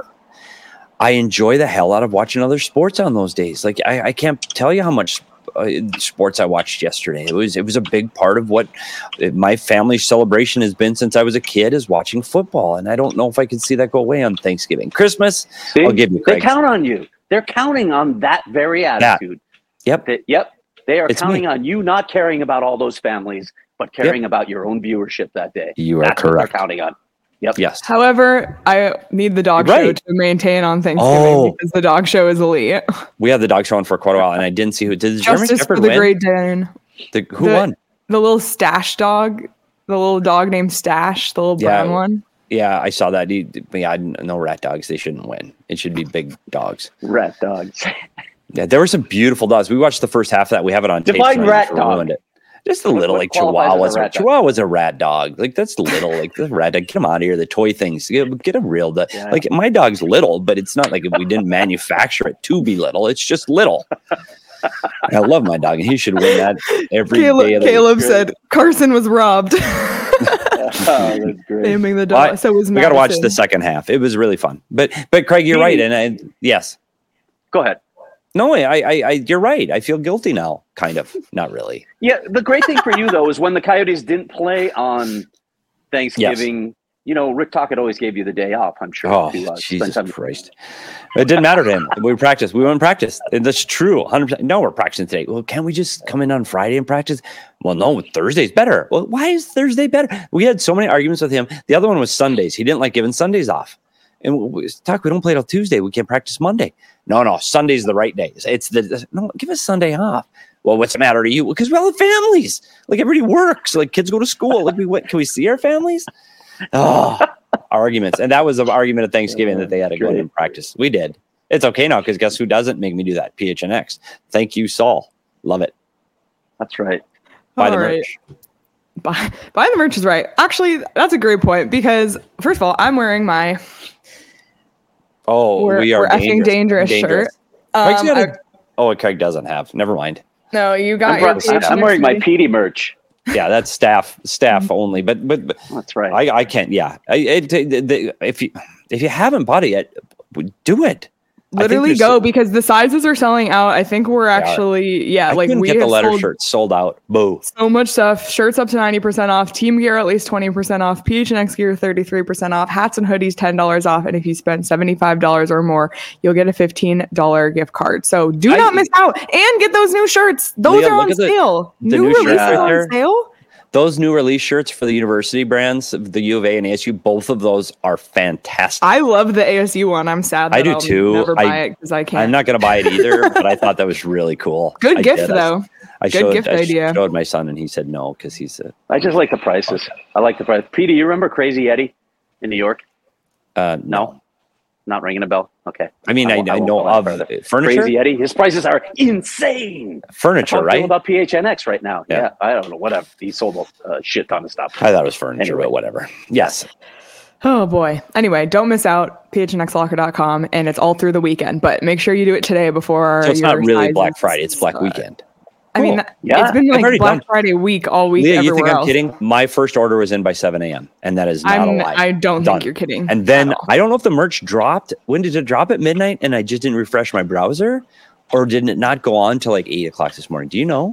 I enjoy the hell out of watching other sports on those days. Like I, I can't tell you how much Uh, sports I watched yesterday. It was it was a big part of what my family celebration has been since I was a kid, is watching football, and I don't know if I can see that go away on Thanksgiving. Christmas, see, I'll give you Craig. They count on you. They're counting on that very attitude. Yeah. Yep. That, yep. They are it's counting me. on you not caring about all those families, but caring yep. about your own viewership that day. You are That's correct. What they're counting on. Yep. Yes. However, I need the dog right. show to maintain on Thanksgiving oh. because the dog show is elite. We had the dog show on for quite a while, and I didn't see who did. The Justice German Shepherd for the win? Great Dane. The, who the, won? The little Stash dog, the little dog named Stash, the little yeah. brown one. Yeah, I saw that. He, yeah, no rat dogs. They shouldn't win. It should be big dogs. Rat dogs. Yeah, there were some beautiful dogs. We watched the first half of that. We have it on tape. Define rat dog. It. Just a little, like Chihuahua's a, a Chihuahua's a rat dog. Like that's little, like the rat dog. Get them out of here. The toy things. Get, get them real. The, yeah. Like my dog's little, but it's not like we didn't manufacture it to be little. It's just little. I love my dog, and he should win that every Caleb, day. Of the Caleb said Carson was robbed. Oh, that's great. Naming the dog. Well, so was we got to watch the second half. It was really fun. But but Craig, you're right, and I, yes. Go ahead. No, I, I, I, you're right. I feel guilty now, kind of. Not really. Yeah, the great thing for you though is when the Coyotes didn't play on Thanksgiving. Yes. You know, Rick Tocchet always gave you the day off. I'm sure. Oh, to, uh, Jesus Christ! It didn't matter to him. We practiced. We went and practiced, and that's true. one hundred percent. No, we're practicing today. Well, can't we just come in on Friday and practice? Well, no, Thursday's better. Well, why is Thursday better? We had so many arguments with him. The other one was Sundays. He didn't like giving Sundays off. And we talk, we don't play till Tuesday. We can't practice Monday. No, no, Sunday's the right day. It's the no. Give us Sunday off. Well, what's the matter to you? Because we all have families. Like everybody works. Like kids go to school. Like we what? Can we see our families? Oh, arguments. And that was an argument at Thanksgiving that they had to go in and practice. We did. It's okay now because guess who doesn't make me do that? P H N X. Thank you, Saul. Love it. That's right. Buy all the right. merch. Buy, buy the merch is right. Actually, that's a great point because first of all, I'm wearing my Oh, we're, we are we're dangerous. effing dangerous, dangerous. shirt. Um, a, I, oh, Craig doesn't have. Never mind. No, you got I'm, your. I'm, I'm wearing my Petey merch. Yeah, that's staff staff mm-hmm. only. But but, but that's right. I, I can't. Yeah, I, it, the, the, if you if you haven't bought it yet, do it. Literally go so, because the sizes are selling out. I think we're actually yeah, I like we get the leather sold shirts sold out. Boo. So much stuff. Shirts up to ninety percent off. Team gear at least twenty percent off. P H N X gear thirty-three percent off. Hats and hoodies ten dollars off. And if you spend seventy-five dollars or more, you'll get a fifteen dollars gift card. So do not I, miss out and get those new shirts. Those Leah, are on sale. The, the new, new releases right on there. sale. those new release shirts for the university brands, the U of A and A S U, both of those are fantastic. I love the A S U one. I'm sad that I do I'll too. never buy I, it because I can't. I'm not going to buy it either, but I thought that was really cool. Good I gift did. though. I, I Good showed, gift I idea. showed my son, and he said no because he's a. I just like the prices. I like the price. Pete, do you remember Crazy Eddie in New York? Uh, No, not ringing a bell. Okay. I mean, I, won't- I, won't know go that of further. furniture. Crazy Eddie. His prices are insane. Furniture, How right? about P H N X right now? Yeah. Yeah. I don't know. Whatever. He sold a uh, shit ton of stuff. I thought it was furniture, Anyway. but whatever. Yes. Oh boy. Anyway, don't miss out. P H N X locker dot com, and it's all through the weekend. But make sure you do it today before. So it's your not really sizes Black Friday; it's Black start. Weekend. I mean, Cool. Yeah. it's been I've already like Black done. Friday week all week. Leah, you think everywhere I'm else. kidding? My first order was in by seven a.m. and that is not a I'm, lie. I don't Done. think you're kidding. And then at all. I don't know if the merch dropped. When did it drop? At midnight, and I just didn't refresh my browser, or didn't it not go on till like eight o'clock this morning? Do you know?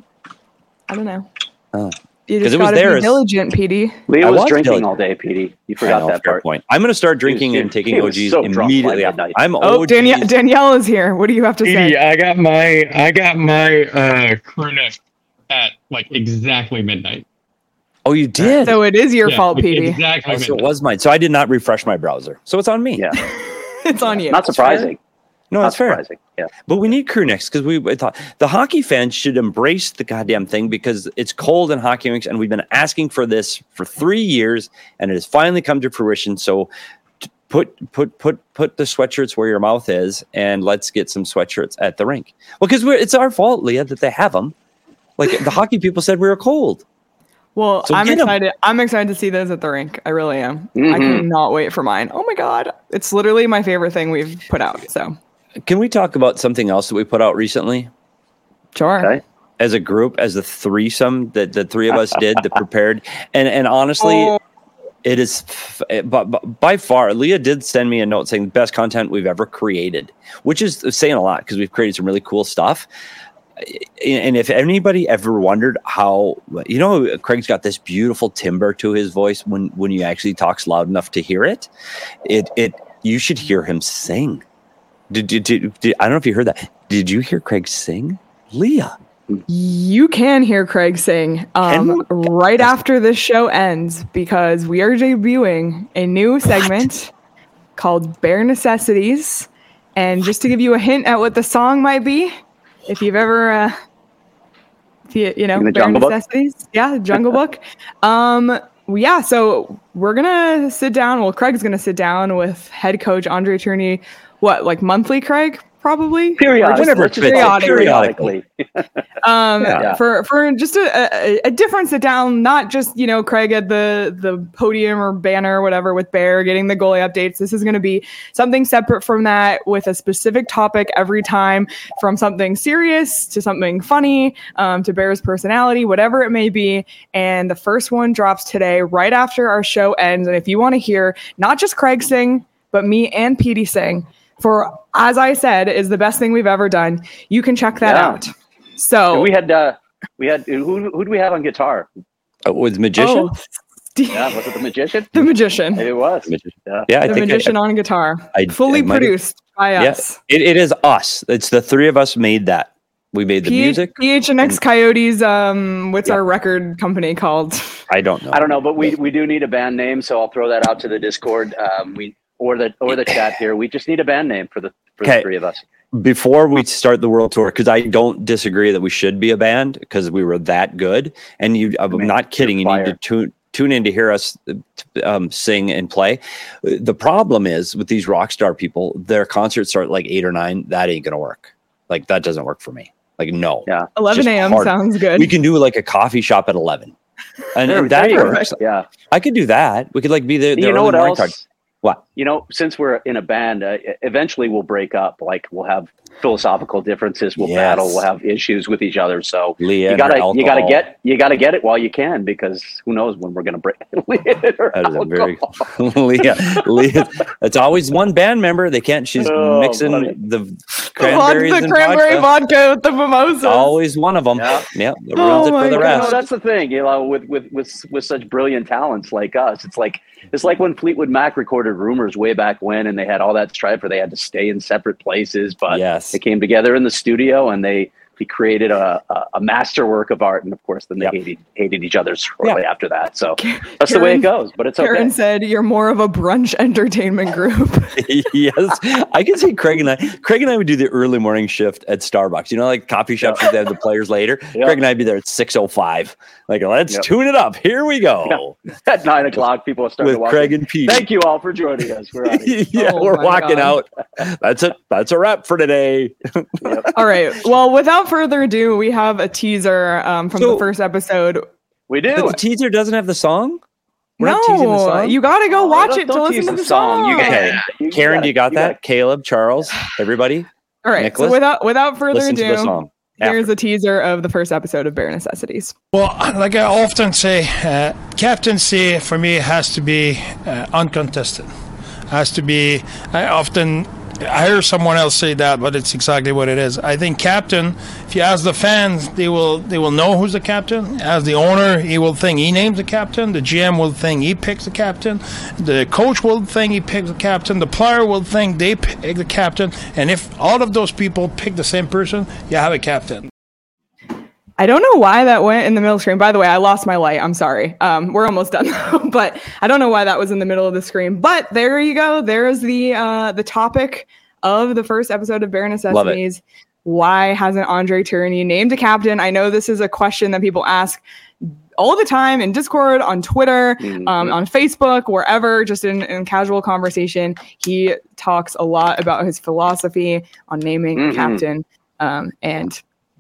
I don't know. Oh. You 'Cause just it was gotta there be as- diligent, P D. Leah I was, was drinking diligent. all day, Petey. You I forgot know, that fair part. point. I'm going to start drinking He was- and taking he O was Gs so drunk by immediately. midnight. I'm Oh, O Gs. Danielle, Danielle is here. What do you have to Petey, say? I got my I got my uh, crew neck at like exactly midnight. Oh, you did? So it is your Yeah, fault, like, P D. Exactly. Oh, so it midnight. was mine. So I did not refresh my browser. So it's on me. Yeah. It's on you. Not surprising. No, Not that's fair. surprising. Yeah. But we need crew necks because we I thought the hockey fans should embrace the goddamn thing because it's cold in hockey rinks, and we've been asking for this for three years, and it has finally come to fruition. So t- put put put put the sweatshirts where your mouth is, and let's get some sweatshirts at the rink. Well, because it's our fault, Leah, that they have them. Like the hockey people said, we were cold. Well, So I'm get 'em. excited. I'm excited to see those at the rink. I really am. I Mhm. cannot wait for mine. Oh my god, it's literally my favorite thing we've put out. So Can we talk about something else that we put out recently? sure. Okay. As a group, as the threesome that the three of us did, that prepared, and and honestly, Oh. it is, f- but, but by far, Leah did send me a note saying best content we've ever created, which is saying a lot because we've created some really cool stuff. And if anybody ever wondered how, you know, Craig's got this beautiful timbre to his voice when when he actually talks loud enough to hear it. It it you should hear him sing. Did, did, did, did I don't know if you heard that? Did you hear Craig sing, Leah? You can hear Craig sing um, right after this show ends because we are debuting a new segment called Bare Necessities. And just to give you a hint at what the song might be, if you've ever, uh, if you, you know, In the Bare Jungle Book? Necessities, yeah, Jungle Book. Um, yeah, so we're gonna sit down. Well, Craig's gonna sit down with head coach Andre Tourney. What, like monthly, Craig? Probably. Periodically. Whenever Let's just fits, say periodically. Um, Yeah. for for just a, a, a different sit down, not just you know Craig at the the podium or banner or whatever with Bear getting the goalie updates. This is going to be something separate from that with a specific topic every time, from something serious to something funny, um, to Bear's personality, whatever it may be. And the first one drops today, right after our show ends. And if you want to hear not just Craig sing, but me and Petey sing, for as I said, is the best thing we've ever done. You can check that Yeah. out. So And we had uh, we had who who do we have on guitar? Uh, with magician? Oh, Yeah, was it the magician? the magician. It was. Magician. Yeah. Yeah, I The think I- magician on guitar. I- fully I might have- produced by yeah, us. it, it is us. It's the three of us made that. We made the P- music. P H N X and- Coyotes, um, what's Yeah. our record company called? I don't know. I don't know, but we we do need a band name, so I'll throw that out to the Discord. Um, we or the or the chat here. We just need a band name for the for Okay. the three of us. Before we start the world tour, because I don't disagree that we should be a band because we were that good. And you, I'm Man, not kidding. You you're need to fire. tune tune in to hear us um, sing and play. The problem is with these rock star people, their concerts start at like eight or nine. That ain't gonna work. Like that doesn't work for me. Like no. Yeah. eleven a.m. hard. sounds good. We can do like a coffee shop at eleven, and, There- and that there you go. works. Yeah. I could do that. We could like be the, the You know early what morning else? card. What? You know, since we're in a band, uh, eventually we'll break up. Like we'll have philosophical differences. We'll Yes. battle. We'll have issues with each other. So Leah you and her gotta you gotta alcohol. get you gotta get it while you can, because who knows when we're gonna break. That is a very Leah. Leah. It's always one band member. They can't. She's Oh, mixing buddy. the the cranberries vodka, and cranberry vodka. vodka with the mimosas. Always one of them. Yeah. Yeah, that Oh ruins it my for the God. You know, rest. that's the thing, you know, with, with, with, with such brilliant talents like us, it's like, it's like when Fleetwood Mac recorded Rumors way back when, and they had all that strife where they had to stay in separate places, but Yes. they came together in the studio and they, he created a, a, a masterwork of art, and of course, then they Yep. hated hated each other shortly Yeah. after that. So that's the way Karen- it goes. But it's Karen okay. said you're more of a brunch entertainment group. Yes, I can see Craig and I. Craig and I would do the early morning shift at Starbucks. You know, like coffee shops Yeah. that have the players later. Yeah. Craig and I'd be there at six oh five. Like, let's Yep. tune it up. Here we go At nine o'clock, people are starting with to walk Craig in. and Pete. Thank you all for joining us. We're out of here. yeah, Oh we're my walking God. out. That's it. That's a wrap for today. All right. Well, without further ado, we have a teaser um, from So- the first episode. We But do. the teaser doesn't have the song. We're not teasing the No, song? you got to go Oh, watch don't- it to don't listen tease to the the song. You got- Okay. you Karen, got do you it. got You that? got it. Caleb, Charles, everybody, All right. Nicholas, So without without further listen to the ado, song. here's After. a teaser of the first episode of Bare Necessities. Well, like I often say, uh, captaincy for me has to be uh, uncontested. Has to be. I often I hear someone else say that, but it's exactly what it is. I think captain. If you ask the fans, they will they will know who's the captain. As the owner, he will think he names the captain. The G M will think he picks the captain. The coach will think he picks the captain. The player will think they pick the captain. And if all of those people pick the same person, you have a captain. I don't know why that went in the middle screen. By the way, I lost my light. I'm sorry. Um, we're almost done, though, but I don't know why that was in the middle of the screen. But there you go. There's the uh, the topic of the first episode of Bare Necessities. Why hasn't Andre Tourigny named a captain? I know this is a question that people ask all the time in Discord, on Twitter, Mhm. um, on Facebook, wherever, just in, in casual conversation. He talks a lot about his philosophy on naming Mhm. a captain. Um, and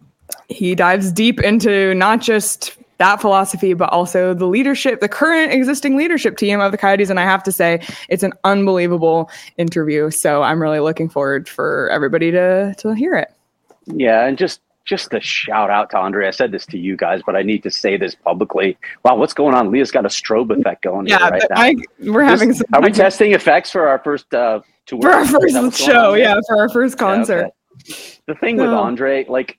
he dives deep into not just that philosophy, but also the leadership, the current existing leadership team of the Coyotes. And I have to say, it's an unbelievable interview. So I'm really looking forward for everybody to to hear it. Yeah, and just just a shout out to Andre. I said this to you guys, but I need to say this publicly. Wow, what's going on? Leah's got a strobe effect going here Yeah, right now. I, we're having some Are we testing effects for our first uh, tour? for our Is that first what's going show. on? Yeah, for our first Yeah, okay. concert. The thing with No. Andre, like,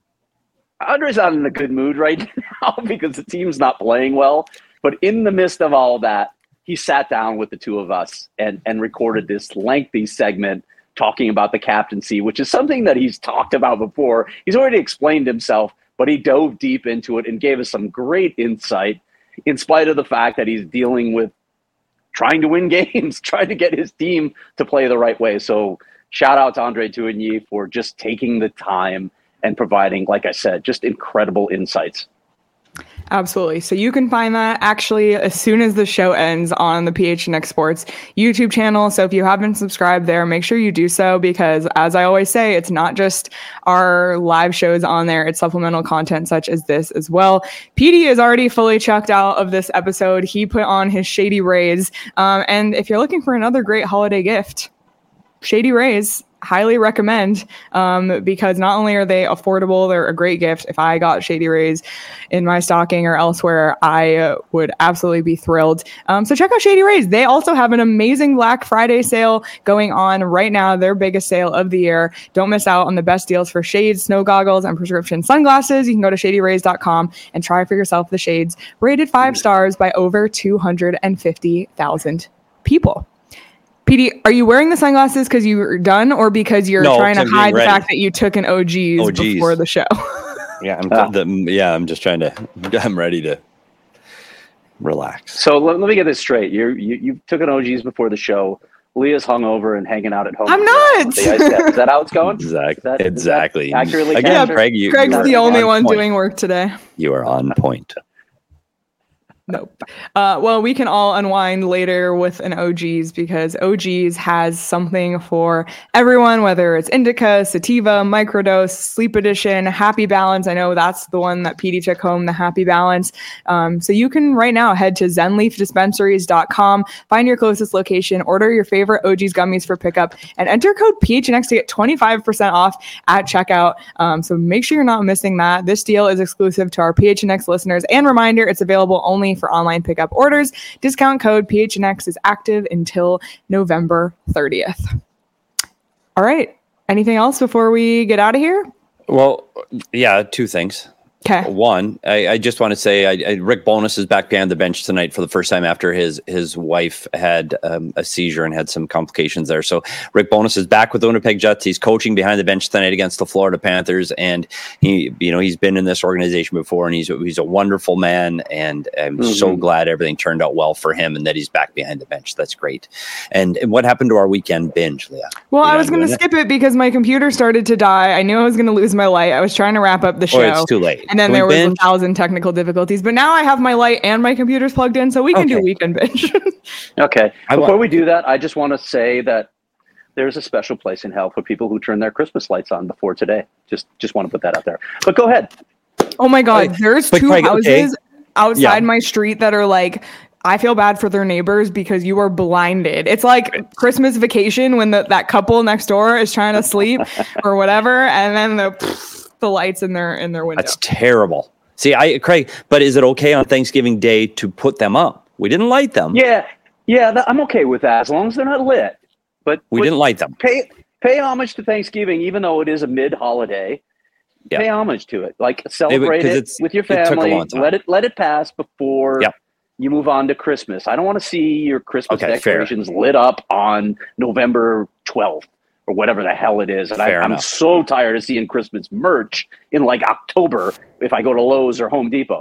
Andre's not in a good mood right now because the team's not playing well. But in the midst of all that, he sat down with the two of us and, and recorded this lengthy segment talking about the captaincy, which is something that he's talked about before. He's already explained himself, but he dove deep into it and gave us some great insight in spite of the fact that he's dealing with trying to win games, trying to get his team to play the right way. So shout out to Andre Tourigny for just taking the time and providing, like I said, just incredible insights. Absolutely. So you can find that actually as soon as the show ends on the P H N X Sports YouTube channel. So if you haven't subscribed there, make sure you do so because, as I always say, it's not just our live shows on there. It's supplemental content such as this as well. P D is already fully checked out of this episode. He put on his Shady Rays. Um, and if you're looking for another great holiday gift, Shady Rays, highly recommend um, because not only are they affordable, they're a great gift. If I got Shady Rays in my stocking or elsewhere, I uh, would absolutely be thrilled. Um, so check out Shady Rays. They also have an amazing Black Friday sale going on right now, their biggest sale of the year. Don't miss out on the best deals for shades, snow goggles, and prescription sunglasses. You can go to shady rays dot com and try for yourself the shades rated five stars by over two hundred fifty thousand people. P D, are you wearing the sunglasses because you're done or because you're No, trying to 'cause I'm being hide the ready. fact that you took an O Gs, O Gs. before the show? Yeah, I'm Ah. the, yeah, I'm just trying to. I'm ready to relax. So let, let me get this straight. You're, you you took an O Gs before the show. Leah's hungover and hanging out at home. I'm not. Is that, is that how it's going? Exactly. Is that- is that exactly. accurately Again, captured? Craig, you, Craig's you are the only on one point. doing work today. You are on point. Nope. Uh, well, we can all unwind later with an O Gs because O Gs has something for everyone, whether it's indica, sativa, microdose, sleep edition, happy balance. I know that's the one that P D took home, the happy balance. Um, so you can right now head to zen leaf dispensaries dot com, find your closest location, order your favorite O Gs gummies for pickup, and enter code P H N X to get twenty-five percent off at checkout. Um, so make sure you're not missing that. This deal is exclusive to our P H N X listeners. And reminder, it's available only for online pickup orders. Discount code P H N X is active until November thirtieth. All right. Anything else before we get out of here? Well, yeah, two things. Okay. One, I, I just want to say I, I, Rick Bowness is back behind the bench tonight for the first time after his his wife had um, a seizure and had some complications there. So Rick Bowness is back with the Winnipeg Jets. He's coaching behind the bench tonight against the Florida Panthers, and he, you know, he's been in this organization before, and he's he's a wonderful man, and I'm mm-hmm. so glad everything turned out well for him, and that he's back behind the bench. That's great. And, and what happened to our weekend binge, Leah? Well, You're I was going to skip it? it because my computer started to die. I knew I was going to lose my light. I was trying to wrap up the show. Oh, it's too late. And then Can there was binge? a thousand technical difficulties, but now I have my light and my computer's plugged in, so we can Okay. do weekend binge. Okay. I Before want- we do that, I just want to say that there's a special place in hell for people who turn their Christmas lights on before today. Just just want to put that out there. But go ahead. Oh my God, Wait, there's but two Craig, houses okay. outside Yeah. my street that are like, I feel bad for their neighbors because you are blinded. It's like Christmas Vacation when the, that couple next door is trying to sleep or whatever, and then the the lights in their in their window. That's terrible. See, I Craig, but is it okay on Thanksgiving Day to put them up? We didn't light them. Yeah. Yeah, that, I'm okay with that as long as they're not lit. But We but didn't light them. pay pay homage to Thanksgiving, even though it is a mid-holiday. Yeah. Pay homage to it. Like celebrate 'cause it it's- with your it took a family. long time. Let it let it pass before Yep. you move on to Christmas. I don't want to see your Christmas Okay, fair. decorations lit up on November twelfth or whatever the hell it is. And I, Fair I'm enough. so tired of seeing Christmas merch in like October if I go to Lowe's or Home Depot.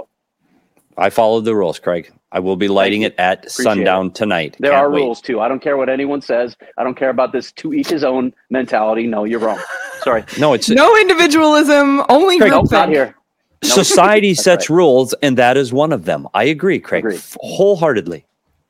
I followed the rules, Craig. I will be lighting it at Appreciate sundown tonight. There Can't are wait. rules too. I don't care what anyone says. I don't care about this to each his own mentality. No, you're wrong. Sorry. No, it's No individualism, only Craig, group Nope, not think. here. Nope. society That's sets right. rules, and that is one of them. I agree, Craig, Agreed. f- wholeheartedly.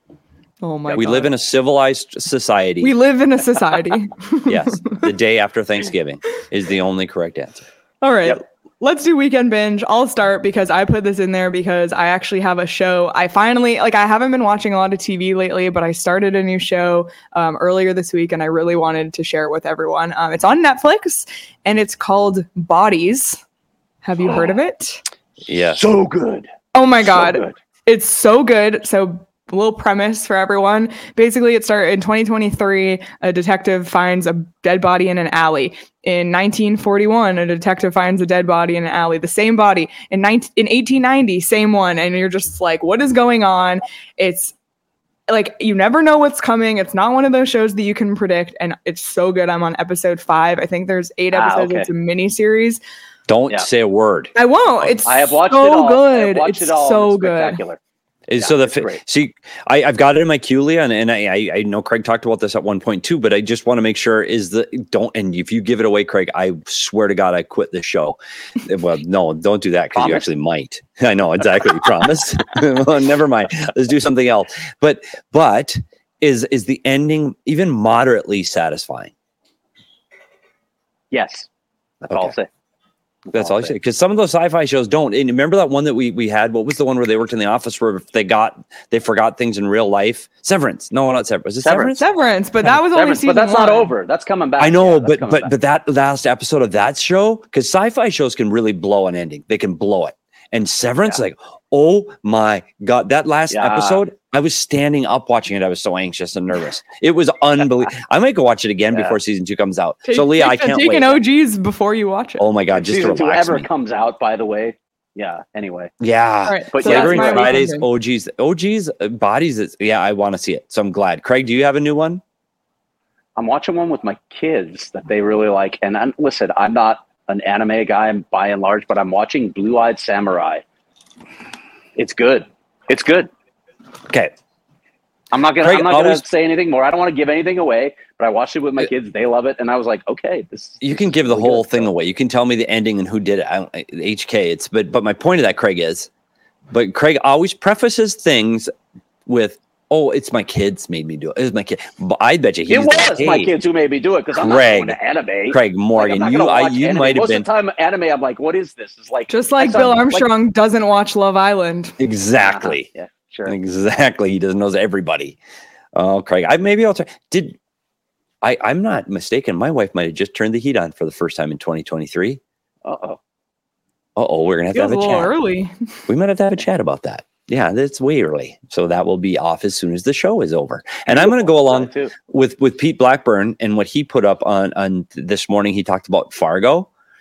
Oh my We God. live in a civilized society. we live in a society. Yes, the day after Thanksgiving is the only correct answer. All right. Yep. Let's do weekend binge. I'll start because I put this in there because I actually have a show. I finally, like, I haven't been watching a lot of T V lately, but I started a new show um, earlier this week and I really wanted to share it with everyone. Um, it's on Netflix and it's called Bodies. Have you heard of it? Yes. So good. Oh my So God. good. It's so good. So, a little premise for everyone. Basically, it started in twenty twenty-three. A detective finds a dead body in an alley. In nineteen forty-one, a detective finds a dead body in an alley. The same body. In nineteen in eighteen ninety, same one. And you're just like, what is going on? It's like you never know what's coming. It's not one of those shows that you can predict. And it's so good. I'm on episode five. I think there's eight Ah, episodes. okay. It's a mini series. Don't Yeah. say a word. I won't. It's I have watched so it all. I good. have watched It's it all. so It's good. spectacular. Is Yeah, so the it's fi- great. see, I, I've got it in my queue, Leah, and, and I, I I know Craig talked about this at one point too, but I just want to make sure is the don't and if you give it away, Craig, I swear to God, I quit the show. Well, no, don't do that because you Promise? actually might. I know exactly. You promise. Well, never mind. Let's do something else. But but is is the ending even moderately satisfying? Yes. That's all I'll Okay. say. That's all I I'll say. Because some of those sci-fi shows don't. And remember that one that we we had? What was the one where they worked in the office where they got they forgot things in real life? Severance. No, not Severance. Was it Severance? Severance. Severance, but that was only Severance, season but that's not one. over. That's coming back. I know, Yeah, that's but coming but back. but that last episode of that show, because sci-fi shows can really blow an ending. They can blow it. And Severance, Yeah. like, oh my God, that last Yeah. episode, I was standing up watching it. I was so anxious and nervous. It was unbelievable. I might go watch it again Yeah. before season two comes out. Take- so Leah, I take the- can't take wait. an O Gs before you watch it. Oh my God, If just to season two relax ever me. comes out, by the way. Yeah. Anyway. Yeah. All right, But so yeah, that's Flagrant my Fridays, weekend. O Gs, O Gs, uh, bodies. Is, yeah, I want to see it. So I'm glad. Craig, do you have a new one? I'm watching one with my kids that they really like. And I'm, listen, I'm not an anime guy by and large, but I'm watching Blue Eyed Samurai. It's good. It's good. Okay. I'm not gonna. Craig, I'm not always- gonna say anything more. I don't want to give anything away. But I watched it with my kids. They love it, and I was like, okay, this. You this can is give the really whole good. thing So- away. You can tell me the ending and who did it. I don't, H K. It's but but my point of that, Craig, is, but Craig always prefaces things with, "Oh, it's my kids made me do it. It was my kid." But I bet you he's It was like, my "Hey, kids who made me do it because I'm Craig, not going to anime. Craig Like, Morgan, I'm not you gonna I, watch you anime. might have Most been of the time, anime. I'm like, what is this? It's like Just I like sound Bill like- Armstrong doesn't watch Love Island. exactly, Yeah, sure. exactly. He doesn't knows everybody. Oh, Craig, I maybe I'll try. Did I? I'm not mistaken. My wife might have just turned the heat on for the first time in twenty twenty-three. Uh oh. Uh oh, we're gonna have to Feels have a a little chat. early. We might have to have a chat about that. Yeah, that's way early. So that will be off as soon as the show is over. And I'm going to go along Too. with with Pete Blackburn and what he put up on on this morning. He talked about Fargo.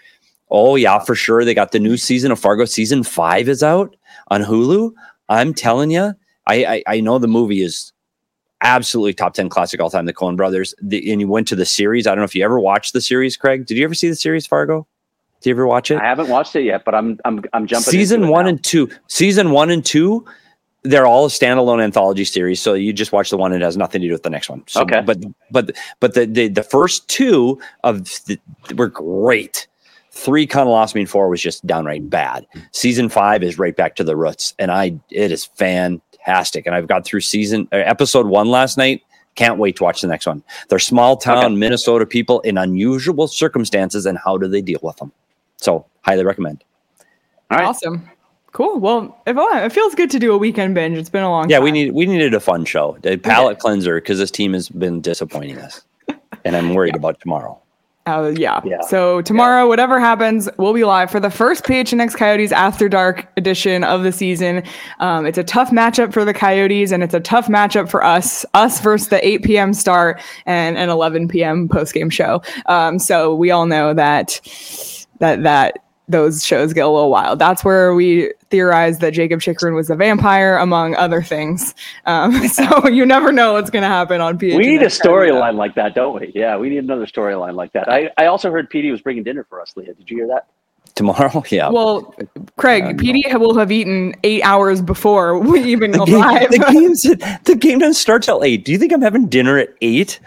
Oh yeah, for sure. They got the new season of Fargo. Season five is out on Hulu. I'm telling you, I, I I know the movie is absolutely top ten classic all time. The Coen Brothers. The, and you went to the series. I don't know if you ever watched the series, Craig. Did you ever see the series Fargo? Did you ever watch it? I haven't watched it yet, but I'm I'm I'm jumping. Season into it one now. and two. Season one and two. They're all a standalone anthology series, so you just watch the one and it has nothing to do with the next one. So, Okay. But but but the the, the first two of the, were great. Three kind of lost me, and four was just downright bad. Season five is right back to the roots, and I it is fantastic. And I've got through season uh, episode one last night. Can't wait to watch the next one. They're small town Okay. Minnesota people in unusual circumstances, and how do they deal with them? So highly recommend. All right. Awesome. Cool. Well, if, oh, it feels good to do a weekend binge. It's been a long Yeah, time. we need we needed a fun show, a palate cleanser, because this team has been disappointing us, and I'm worried about tomorrow. Uh, yeah. Yeah. So tomorrow, whatever happens, we'll be live for the first P H N X Coyotes After Dark edition of the season. Um, it's a tough matchup for the Coyotes, and it's a tough matchup for us, us versus the eight p.m. start and an eleven p.m. postgame show. Um, so we all know that that that those shows get a little wild. That's where we theorized that Jacob Chikrin was a vampire, among other things. Um, so you never know what's going to happen on P H N X. We need a storyline like that, don't we? Yeah, we need another storyline like that. I, I also heard P D was bringing dinner for us, Leah. Did you hear that? Tomorrow, yeah. Well, Craig, P D will have eaten eight hours before we even the, game, arrive. the game's the game doesn't start till eight. Do you think I'm having dinner at eight?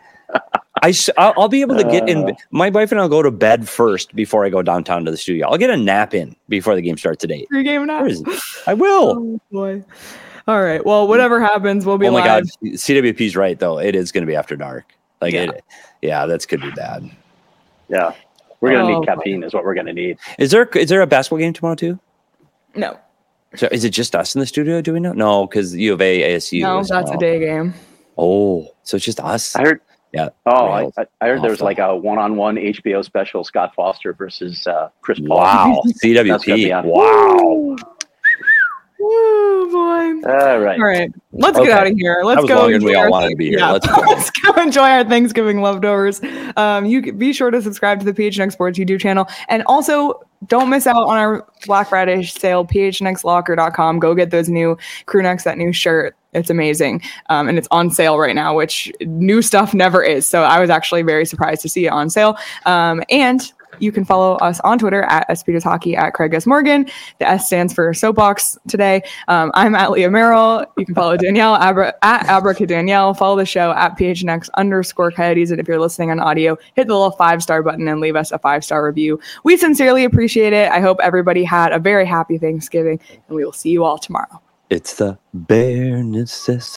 I s- I'll, I'll be able to get in. My wife and I'll go to bed first before I go downtown to the studio. I'll get a nap in before the game starts at eight. Pre-game nap. Where is it? I will. Oh boy. All right. Well, whatever happens, we'll be Oh my live. god, C W P's right though. It is going to be after dark. Like Yeah. it, yeah, that's could be bad. Yeah. We're going to Oh, need caffeine is what we're going to need. Is there is there a basketball game tomorrow too? No, So is it just us in the studio doing it? No, because U of A, A S U. no, as that's well. a day game. Oh, so it's just us. I heard Yeah. Oh, I, Rails. I I heard there was Awful. like a one-on-one H B O special, Scott Foster versus uh, Chris Paul. Wow. C W That's gonna P. be on. Wow. Woo, boy. All right. All right, let's Okay. get out of here. Let's That was go. longer than we enjoy all our wanted thing- to be here. Yeah. Let's go. Let's go enjoy our Thanksgiving leftovers. Um, you can be sure to subscribe to the P H N X Sports YouTube channel, and also don't miss out on our Black Friday sale. P H N X locker dot com. Go get those new crew necks, that new shirt. It's amazing, um, and it's on sale right now, which new stuff never is. So I was actually very surprised to see it on sale. Um, and you can follow us on Twitter at S Peters Hockey, at Craig S. Morgan. The S stands for Soapbox today. Um, I'm at Leah Merrill. You can follow Danielle Abra- at Abraca Danielle. Follow the show at P H N X underscore Coyotes. And if you're listening on audio, hit the little five star button and leave us a five star review. We sincerely appreciate it. I hope everybody had a very happy Thanksgiving, and we will see you all tomorrow. It's the bare necessities.